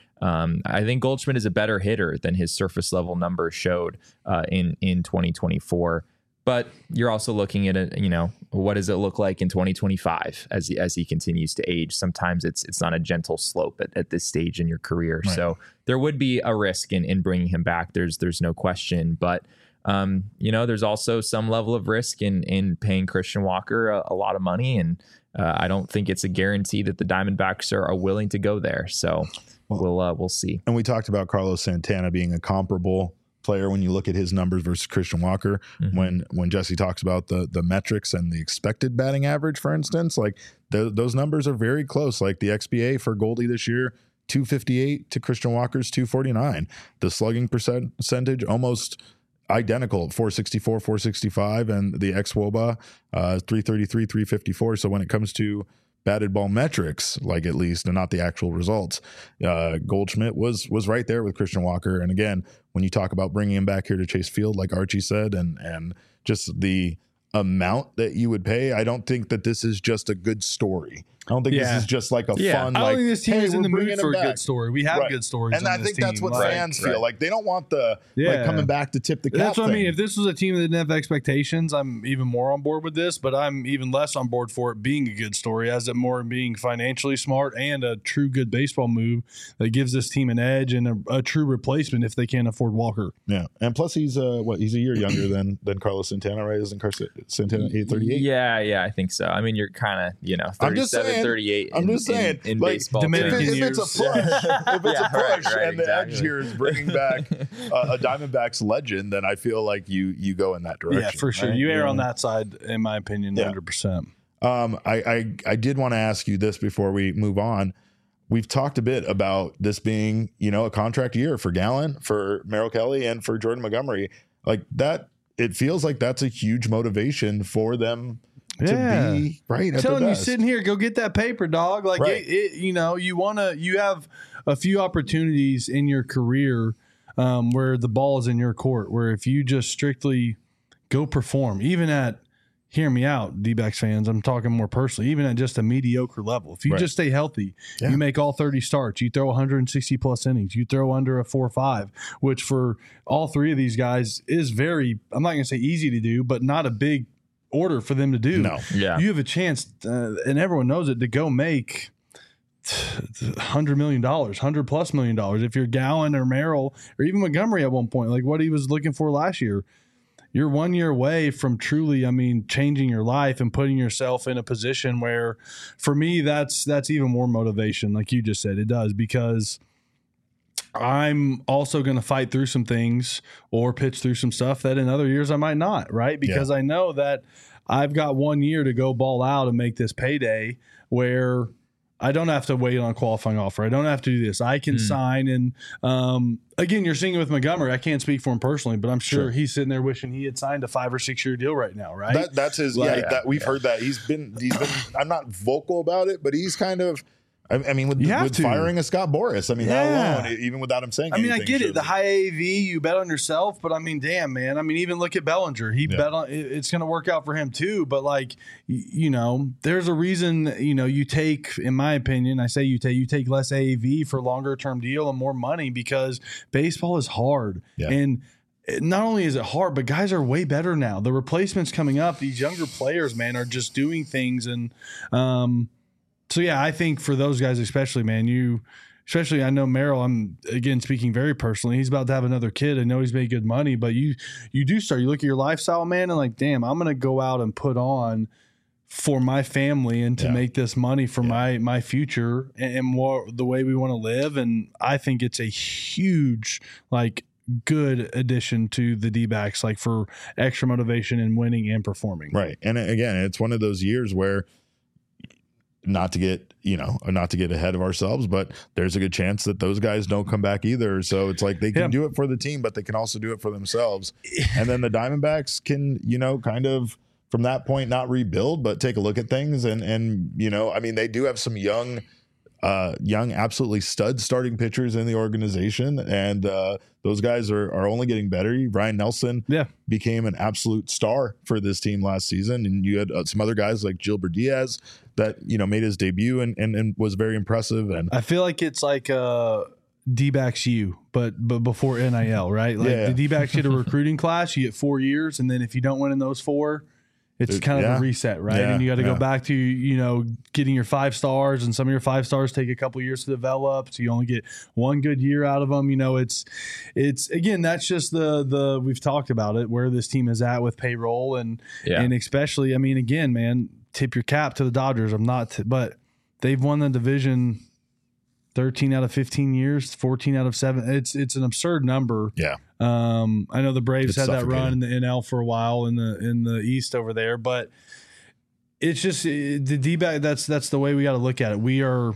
I think Goldschmidt is a better hitter than his surface level numbers showed in 2024. But you're also looking at it, what does it look like in 2025 as he continues to age? Sometimes it's not a gentle slope at this stage in your career. Right. So there would be a risk in bringing him back. There's no question. But there's also some level of risk in paying Christian Walker a lot of money, and I don't think it's a guarantee that the Diamondbacks are willing to go there. So we'll see. And we talked about Carlos Santana being a comparable player when you look at his numbers versus Christian Walker. Mm-hmm. When Jesse talks about the metrics and the expected batting average, for instance, like those numbers are very close. Like the XBA for Goldie this year, 258 to Christian Walker's 249. The slugging percentage almost identical, 464, 465, and the xWOBA 333, 354. So when it comes to batted ball metrics, like at least, and not the actual results, Goldschmidt was right there with Christian Walker. And again, when you talk about bringing him back here to Chase Field, like Archie said, and just the amount that you would pay, I don't think that this is just a good story. I don't think this is just like a fun. I don't think this team is in the mood for a back. Good story. We have good stories, and I think that's what fans feel like. They don't want the coming back to tip the cap. That's what I mean. If this was a team that didn't have expectations, I'm even more on board with this. But I'm even less on board for it being a good story, as it more being financially smart and a true good baseball move that gives this team an edge and a true replacement if they can't afford Walker. Yeah, and plus he's he's a year younger than Carlos Santana, right? Isn't Santana 838? Yeah, I think so. I mean, you're kind of 37. 38. I'm just saying, in like, baseball. If it's a push, and the edge here is bringing back a Diamondbacks legend, then I feel like you go in that direction. Yeah, for sure. Right? You err on that side, in my opinion, 100%. I did want to ask you this before we move on. We've talked a bit about this being, a contract year for Gallen, for Merrill Kelly, and for Jordan Montgomery. Like that, it feels like that's a huge motivation for them. To be right. I'm telling you, sitting here, go get that paper, dog. Like you have a few opportunities in your career where the ball is in your court. Where if you just strictly go perform, even at, hear me out, D-backs fans, I'm talking more personally, even at just a mediocre level. If you just stay healthy, you make all 30 starts, you throw 160 plus innings, you throw under a 4.5, which for all three of these guys is very, I'm not going to say easy to do, but not a big order for them to do. No. Yeah. You have a chance, and everyone knows it, to go make $100 million, $100+ million. If you're Gallen or Merrill or even Montgomery at one point, like what he was looking for last year, you're 1 year away from truly, changing your life and putting yourself in a position where, for me, that's even more motivation. Like you just said, it does, because I'm also going to fight through some things or pitch through some stuff that in other years I might not, right? Because I know that I've got 1 year to go ball out and make this payday where I don't have to wait on a qualifying offer. I don't have to do this. I can sign. And again, you're seeing it with Montgomery. I can't speak for him personally, but I'm sure he's sitting there wishing he had signed a 5 or 6 year deal right now, right? That's his. We've heard that he's been. I'm not vocal about it, but he's kind of. I mean, with firing a Scott Boras, I mean, that alone, even without him saying anything. I mean, I get it. The high AAV, you bet on yourself, but I mean, damn, man. I mean, even look at Bellinger. He bet on it's going to work out for him too. But like, you know, there's a reason, you know, you take, in my opinion, I say you take less AAV for longer term deal and more money because baseball is hard. Yeah. And not only is it hard, but guys are way better now. The replacements coming up, these younger players, man, are just doing things. And so, yeah, I think for those guys especially, man, especially I know Merrill, I'm, again, speaking very personally, he's about to have another kid. I know he's made good money, but you look at your lifestyle, man, and like, damn, I'm going to go out and put on for my family and to make this money for my future and more the way we want to live. And I think it's a huge, like, good addition to the D-backs, like for extra motivation and winning and performing. Right. And again, it's one of those years where not to get ahead of ourselves, but there's a good chance that those guys don't come back either. So it's like they can do it for the team, but they can also do it for themselves. And then the Diamondbacks can, you know, kind of from that point, not rebuild, but take a look at things. And you know, I mean, they do have some young, absolutely stud starting pitchers in the organization. And those guys are only getting better. Ryan Nelson became an absolute star for this team last season. And you had some other guys like Gilbert Diaz that, you know, made his debut and was very impressive. And I feel like it's like D-backs U, but before NIL, right? Like the D-backs get a recruiting class, you get 4 years. And then if you don't win in those 4, it's kind of a reset, right? And you got to go back to, you know, getting your 5 stars, and some of your 5 stars take a couple years to develop. So you only get 1 good year out of them. You know, it's again, that's just the we've talked about it, where this team is at with payroll and especially, I mean, again, man, tip your cap to the Dodgers. But they've won the division 13 out of 15 years, 14 out of 7. It's an absurd number. Yeah. I know the Braves had that run in the NL for a while in the East over there, but it's just the D-back. That's the way we got to look at it. We are,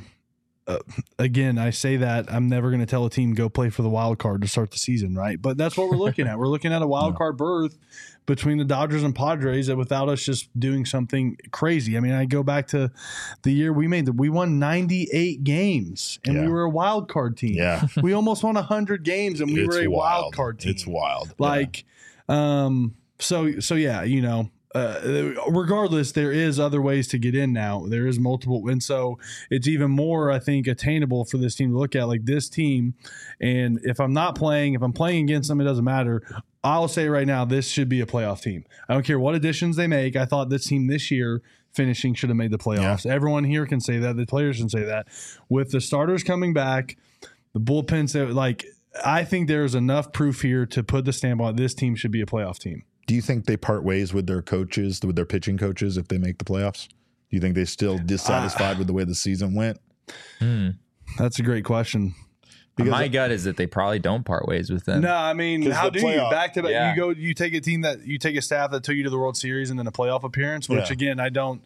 again, I say that I'm never going to tell a team go play for the wild card to start the season, right? But that's what we're looking at. We're looking at a wild card berth between the Dodgers and Padres that without us just doing something crazy. I mean, I go back to the year we won 98 games and we were a wild card team. Yeah. We almost won 100 games and we were a wild card team. It's wild. Like, so yeah, you know, regardless, there is other ways to get in now. There is multiple. And so it's even more, I think, attainable for this team to look at, like this team. And if I'm playing against them, it doesn't matter. I'll say right now, this should be a playoff team. I don't care what additions they make. I thought this team this year finishing should have made the playoffs. Yeah. Everyone here can say that. The players can say that. With the starters coming back, the bullpens, like, I think there's enough proof here to put the stamp on this team should be a playoff team. Do you think they part ways with their coaches, with their pitching coaches, if they make the playoffs? Do you think they're still dissatisfied with the way the season went? That's a great question. Because my gut is that they probably don't part ways with them. No, I mean, how do you back to back? Yeah. You take a staff that took you to the World Series and then a playoff appearance, which again, I don't.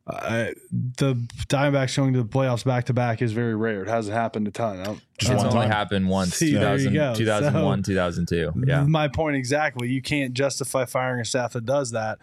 The Diamondbacks going to the playoffs back to back is very rare. It hasn't happened a ton. It's only happened once, 2001, 2002. Yeah. My point exactly. You can't justify firing a staff that does that.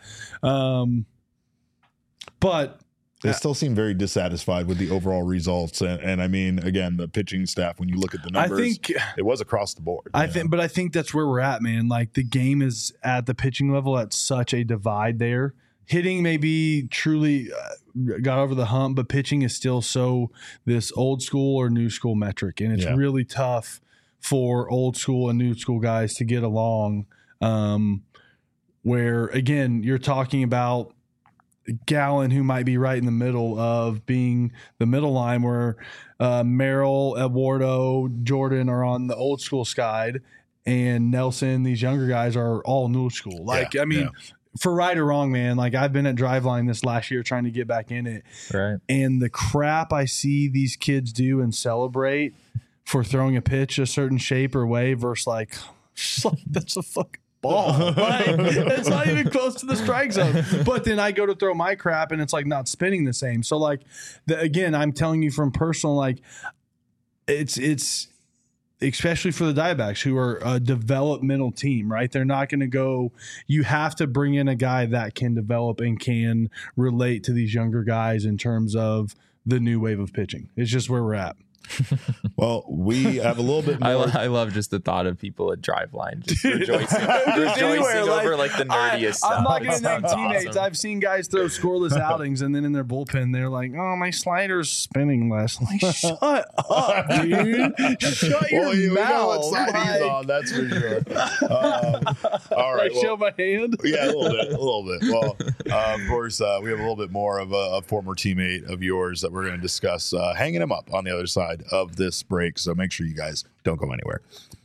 But they still seem very dissatisfied with the overall results. And I mean, again, the pitching staff, when you look at the numbers, I think it was across the board. I think that's where we're at, man. Like the game is at the pitching level at such a divide there. Hitting maybe truly got over the hump, but pitching is still so this old school or new school metric. And it's really tough for old school and new school guys to get along. Where, again, you're talking about Gallen, who might be right in the middle of being the middle line, where Merrill, Eduardo, Jordan are on the old school side, and Nelson, these younger guys are all new school. Like, I mean, for right or wrong, man, like I've been at Driveline this last year trying to get back in it. Right. And the crap I see these kids do and celebrate for throwing a pitch a certain shape or way versus like that's a fucking ball. Right? It's not even close to the strike zone. But then I go to throw my crap and it's like not spinning the same. So like again, I'm telling you from personal, like it's especially for the Diamondbacks, who are a developmental team, right? They're not going to go – you have to bring in a guy that can develop and can relate to these younger guys in terms of the new wave of pitching. It's just where we're at. Well, we have a little bit more. I love just the thought of people at Driveline just rejoicing over like the nerdiest stuff. I'm not going to name That's teammates. awesome. I've seen guys throw scoreless outings, and then in their bullpen, they're like, "Oh, my slider's spinning less." Like, shut up, dude! Shut your We know what mouth! side he's on, that's for sure. All right, Show my hand. yeah, a little bit. Well, of course, we have a little bit more of a former teammate of yours that we're going to discuss, hanging him up on the other side of this break. So make sure you guys don't go anywhere.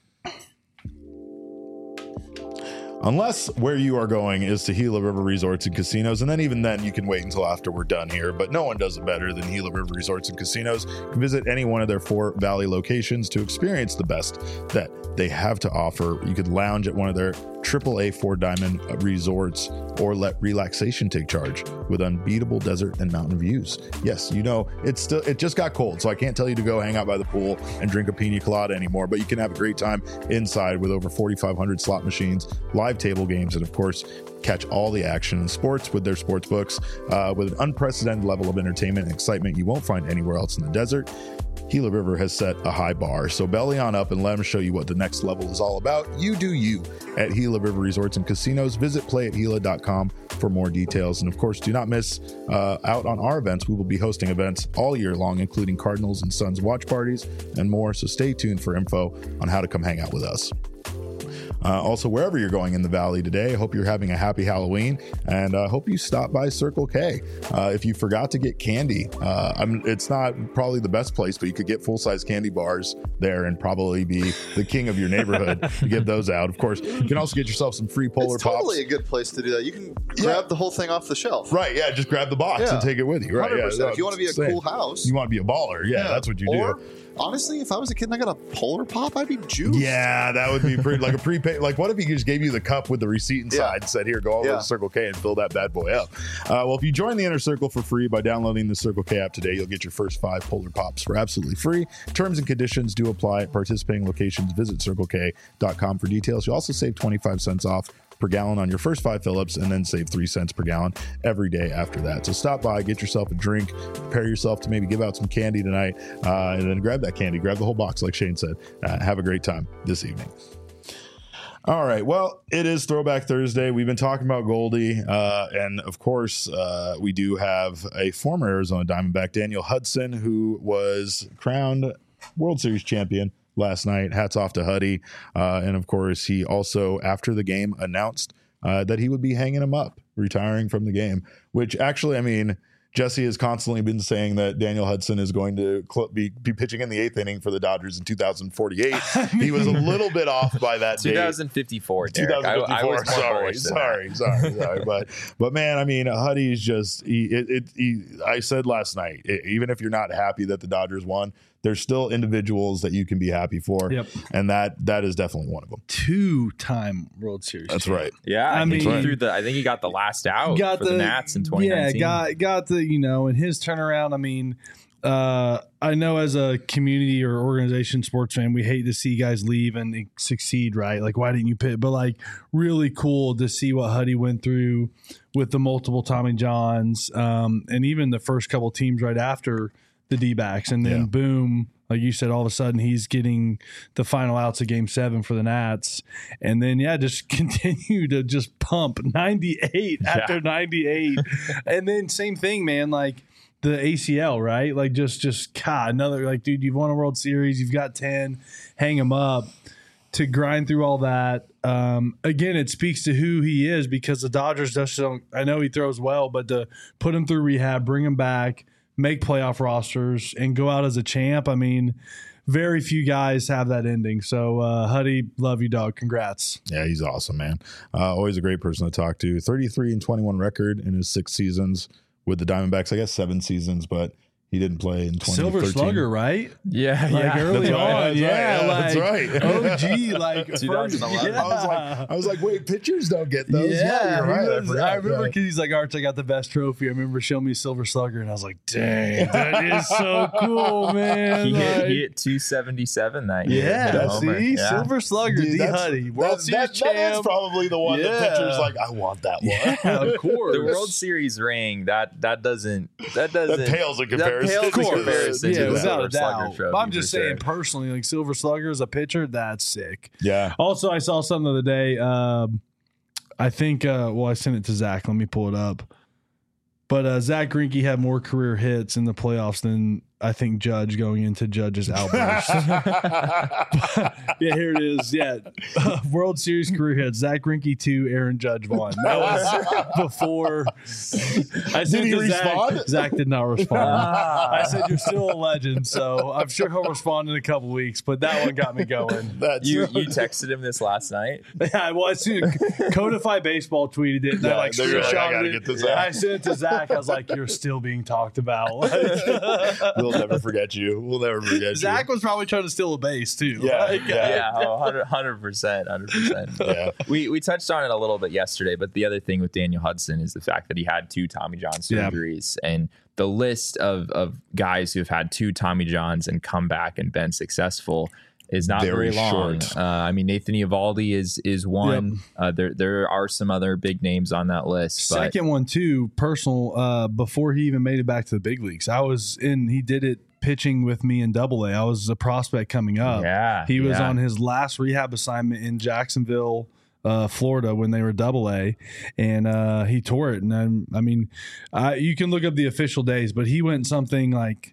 Unless where you are going is to Gila River Resorts and Casinos, and then even then you can wait until after we're done here, but no one does it better than Gila River Resorts and Casinos. You can visit any one of their 4 Valley locations to experience the best that they have to offer. You could lounge at one of their AAA 4-diamond resorts or let relaxation take charge with unbeatable desert and mountain views. Yes, you know, it just got cold, so I can't tell you to go hang out by the pool and drink a pina colada anymore, but you can have a great time inside with over 4,500 slot machines, live table games, and of course, catch all the action in sports with their sports books with an unprecedented level of entertainment and excitement you won't find anywhere else in the desert. Gila River has set a high bar, so belly on up and let them show you what the next level is all about. You do you at Gila River Resorts and Casinos. Visit playathila.com for more details. And of course, do not miss out on our events. We will be hosting events all year long, including Cardinals and Suns watch parties and more. So stay tuned for info on how to come hang out with us. Also, wherever you're going in the Valley today, I hope you're having a happy Halloween, and I hope you stop by Circle K. If you forgot to get candy, it's not probably the best place, but you could get full-size candy bars there and probably be the king of your neighborhood to get those out. Of course, you can also get yourself some free Polar It's Pops. totally a good place to do that. You can grab the whole thing off the shelf. Right, yeah, just grab the box and take it with you. Right, 100%. yeah. If you want to be a cool house. You want to be a baller. Yeah, that's what you or, do. Honestly, if I was a kid and I got a Polar Pop, I'd be juiced. Yeah, that would be pretty, like a prepaid. Like, what if he just gave you the cup with the receipt inside and said, here, go over to Circle K and fill that bad boy up? Well, if you join the Inner Circle for free by downloading the Circle K app today, you'll get your first 5 Polar Pops for absolutely free. Terms and conditions do apply at participating locations. Visit CircleK.com for details. You'll also save 25 cents off per gallon on your first 5 fill-ups and then save 3 cents per gallon every day after that. So stop by, get yourself a drink, prepare yourself to maybe give out some candy tonight, and then grab that candy, grab the whole box like Shane said. Have a great time this evening. All right. Well, it is Throwback Thursday. We've been talking about Goldie, and of course, we do have a former Arizona Diamondback, Daniel Hudson, who was crowned World Series champion last night. Hats off to Huddy. And of course, he also, after the game, announced that he would be hanging him up, retiring from the game, which actually, I mean, Jesse has constantly been saying that Daniel Hudson is going to be pitching in the 8th inning for the Dodgers in 2048. He was a little bit off by that date. 2054, Derek. 2054. I was more bullish than Sorry. But man, I mean, Huddy's just, I said last night, even if you're not happy that the Dodgers won, there's still individuals that you can be happy for. Yep. And that is definitely one of them. 2-time World Series. That's right. Yeah. I mean, I think he got the last out for the Nats in 2019. Yeah, got the, in his turnaround. I mean, I know as a community or organization sports fan, we hate to see guys leave and succeed, right? Like, why didn't you pick? But like, really cool to see what Huddy went through with the multiple Tommy Johns, and even the first couple teams right after the D-backs, and then boom, like you said, all of a sudden he's getting the final outs of Game 7 for the Nats, and then just continue to just pump 98 after 98, and then same thing, man, like the ACL, right? Like just God, another, like, dude, you've won a World Series, you've got 10, hang him up. To grind through all that, again, it speaks to who he is, because the Dodgers just don't. I know he throws well, but to put him through rehab, bring him back, make playoff rosters, and go out as a champ. I mean, very few guys have that ending. So, Huddy, love you, dog. Congrats. Yeah, he's awesome, man. Always a great person to talk to. 33-21 record in his 6 seasons with the Diamondbacks. I guess 7 seasons, but he didn't play in 2013. Silver Slugger, right? Yeah, like early on. That's right. OG, like 2011. I was like, wait, pitchers don't get those. Yeah, you're right. I remember because he's like, Arch, I got the best trophy. I remember showing me Silver Slugger, and I was like, dang, that is so cool, man. He hit 277 that year. Yeah, Silver Slugger, Dude, Huddy, World Series champ. That's probably the one that pitchers like, I want that one. Yeah, of course. The World Series ring, that doesn't that pales in comparison. pales in comparison to the without Silver a Slugger doubt. trophy, But I'm just for saying sure. personally, like Silver Slugger as a pitcher, that's sick. Yeah. Also, I saw something the other day. I think, I sent it to Zach. Let me pull it up. But Zach Greinke had more career hits in the playoffs than I think Judge going into Judge's outburst. Yeah, here it is. Yeah. World Series career hits. Zach Greinke 2, Aaron Judge 1. That was before. I said Did he to respond? Zach did not respond. I said, you're still a legend. So I'm sure he'll respond in a couple weeks. But that one got me going. That's You texted him this last night. Yeah, well, I seen Codify Baseball tweeted it. And Yeah, I they're like, I screenshotted gotta it. get this out. I sent it to Zach. I was like, you're still being talked about. we'll never forget you. We'll never forget Zach you. was probably trying to steal a base too. Yeah, Like, yeah. Yeah, 100%. Yeah. We touched on it a little bit yesterday, but the other thing with Daniel Hudson is the fact that he had 2 Tommy John Yeah. surgeries, and the list of guys who have had 2 Tommy Johns and come back and been successful is not Very very long. short. I mean, Nathan Eovaldi is one. There are some other big names on that list. But Second one too, personal. Before he even made it back to the big leagues, he did it pitching with me in Double A. I was a prospect coming up. Yeah, He was yeah. on his last rehab assignment in Jacksonville, Florida, when they were Double A, and he tore it. And I mean, you can look up the official days, but he went something like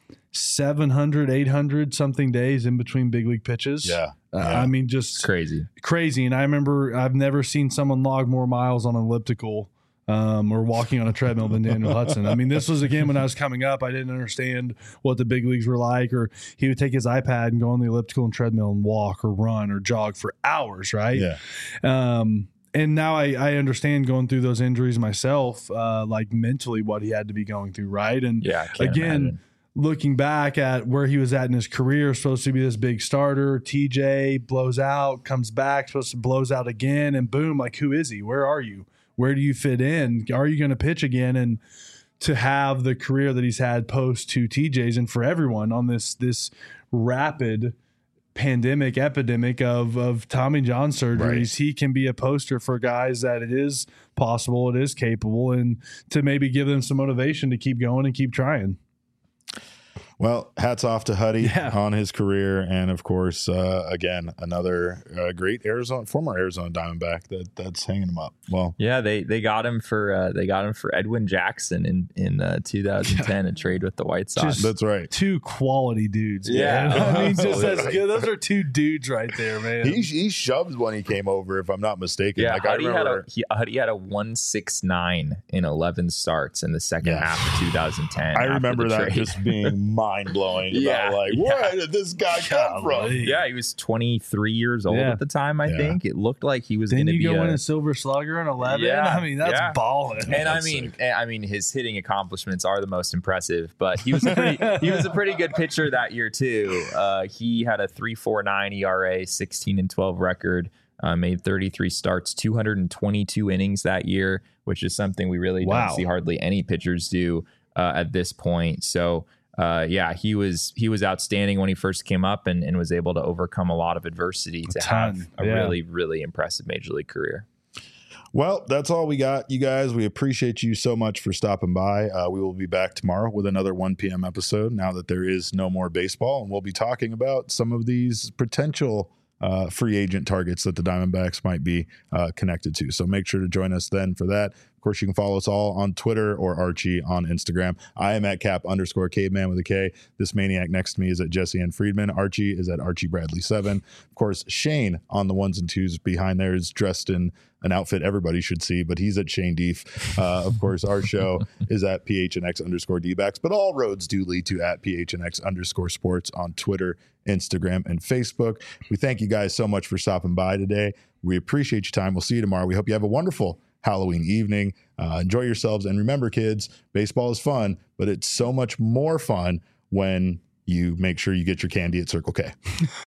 700, 800 something days in between big league pitches. Yeah. I mean, just crazy. crazy. And I remember I've never seen someone log more miles on an elliptical or walking on a treadmill than Daniel Hudson. I mean, this was again when I was coming up. I didn't understand what the big leagues were like, or he would take his iPad and go on the elliptical and treadmill and walk or run or jog for hours, right? Yeah. And now I understand going through those injuries myself, like mentally what he had to be going through, right? And Yeah, I can't again, imagine. looking back at where he was at in his career, supposed to be this big starter, TJ blows out, comes back, supposed to blows out again, and boom, like who is he? Where are you? Where do you fit in? Are you going to pitch again? And to have the career that he's had post 2 TJs, and for everyone on this rapid epidemic of Tommy John surgeries, Right. he can be a poster for guys that it is possible, it is capable, and to maybe give them some motivation to keep going and keep trying. Well, hats off to Huddy Yeah. on his career, and of course, again, another great former Arizona Diamondback that's hanging him up. Well, Yeah, they got him for Edwin Jackson in 2010, a trade with the White Sox. Just- that's right. 2 quality dudes. Yeah. man. I mean, just as Absolutely. good. Those are 2 dudes right there, man. He shoved when he came over, if I'm not mistaken. Yeah, Like, I Huddy remember. had a 169 in 11 starts in the second Yeah. half of 2010. I after remember the that trade. just being mind blowing. Yeah, About like, yeah. where did this guy come from? Golly. Yeah, he was 23 years old Yeah. at the time. I Yeah. think it looked like he was going Then to you be go a, in a Silver Slugger in 11. Yeah, I mean, that's yeah. balling. And That's I mean, his hitting accomplishments are the most impressive. But he was a pretty good pitcher that year too. He had a 3.49 ERA, 16-12 record. Made 33 starts, 222 innings that year, which is something we really Wow. don't see hardly any pitchers do at this point. So. Yeah, he was outstanding when he first came up and was able to overcome a lot of adversity to have a yeah. really, really impressive major league career. Well, that's all we got, you guys. We appreciate you so much for stopping by. We will be back tomorrow with another 1 p.m. episode now that there is no more baseball. And we'll be talking about some of these potential free agent targets that the Diamondbacks might be connected to. So make sure to join us then for that. Of course, you can follow us all on Twitter or Archie on Instagram. I am at @cap_caveman with a K. This maniac next to me is at Jesse N. Friedman. Archie is at Archie Bradley 7. Of course, Shane on the 1s and 2s behind there is dressed in an outfit everybody should see, but he's at Shane Deef. Of course, our show is at PHNX_DBacks, but all roads do lead to at PHNX_sports on Twitter, Instagram, and Facebook. We thank you guys so much for stopping by today. We appreciate your time. We'll see you tomorrow. We hope you have a wonderful Halloween evening. Enjoy yourselves. And remember, kids, baseball is fun, but it's so much more fun when you make sure you get your candy at Circle K.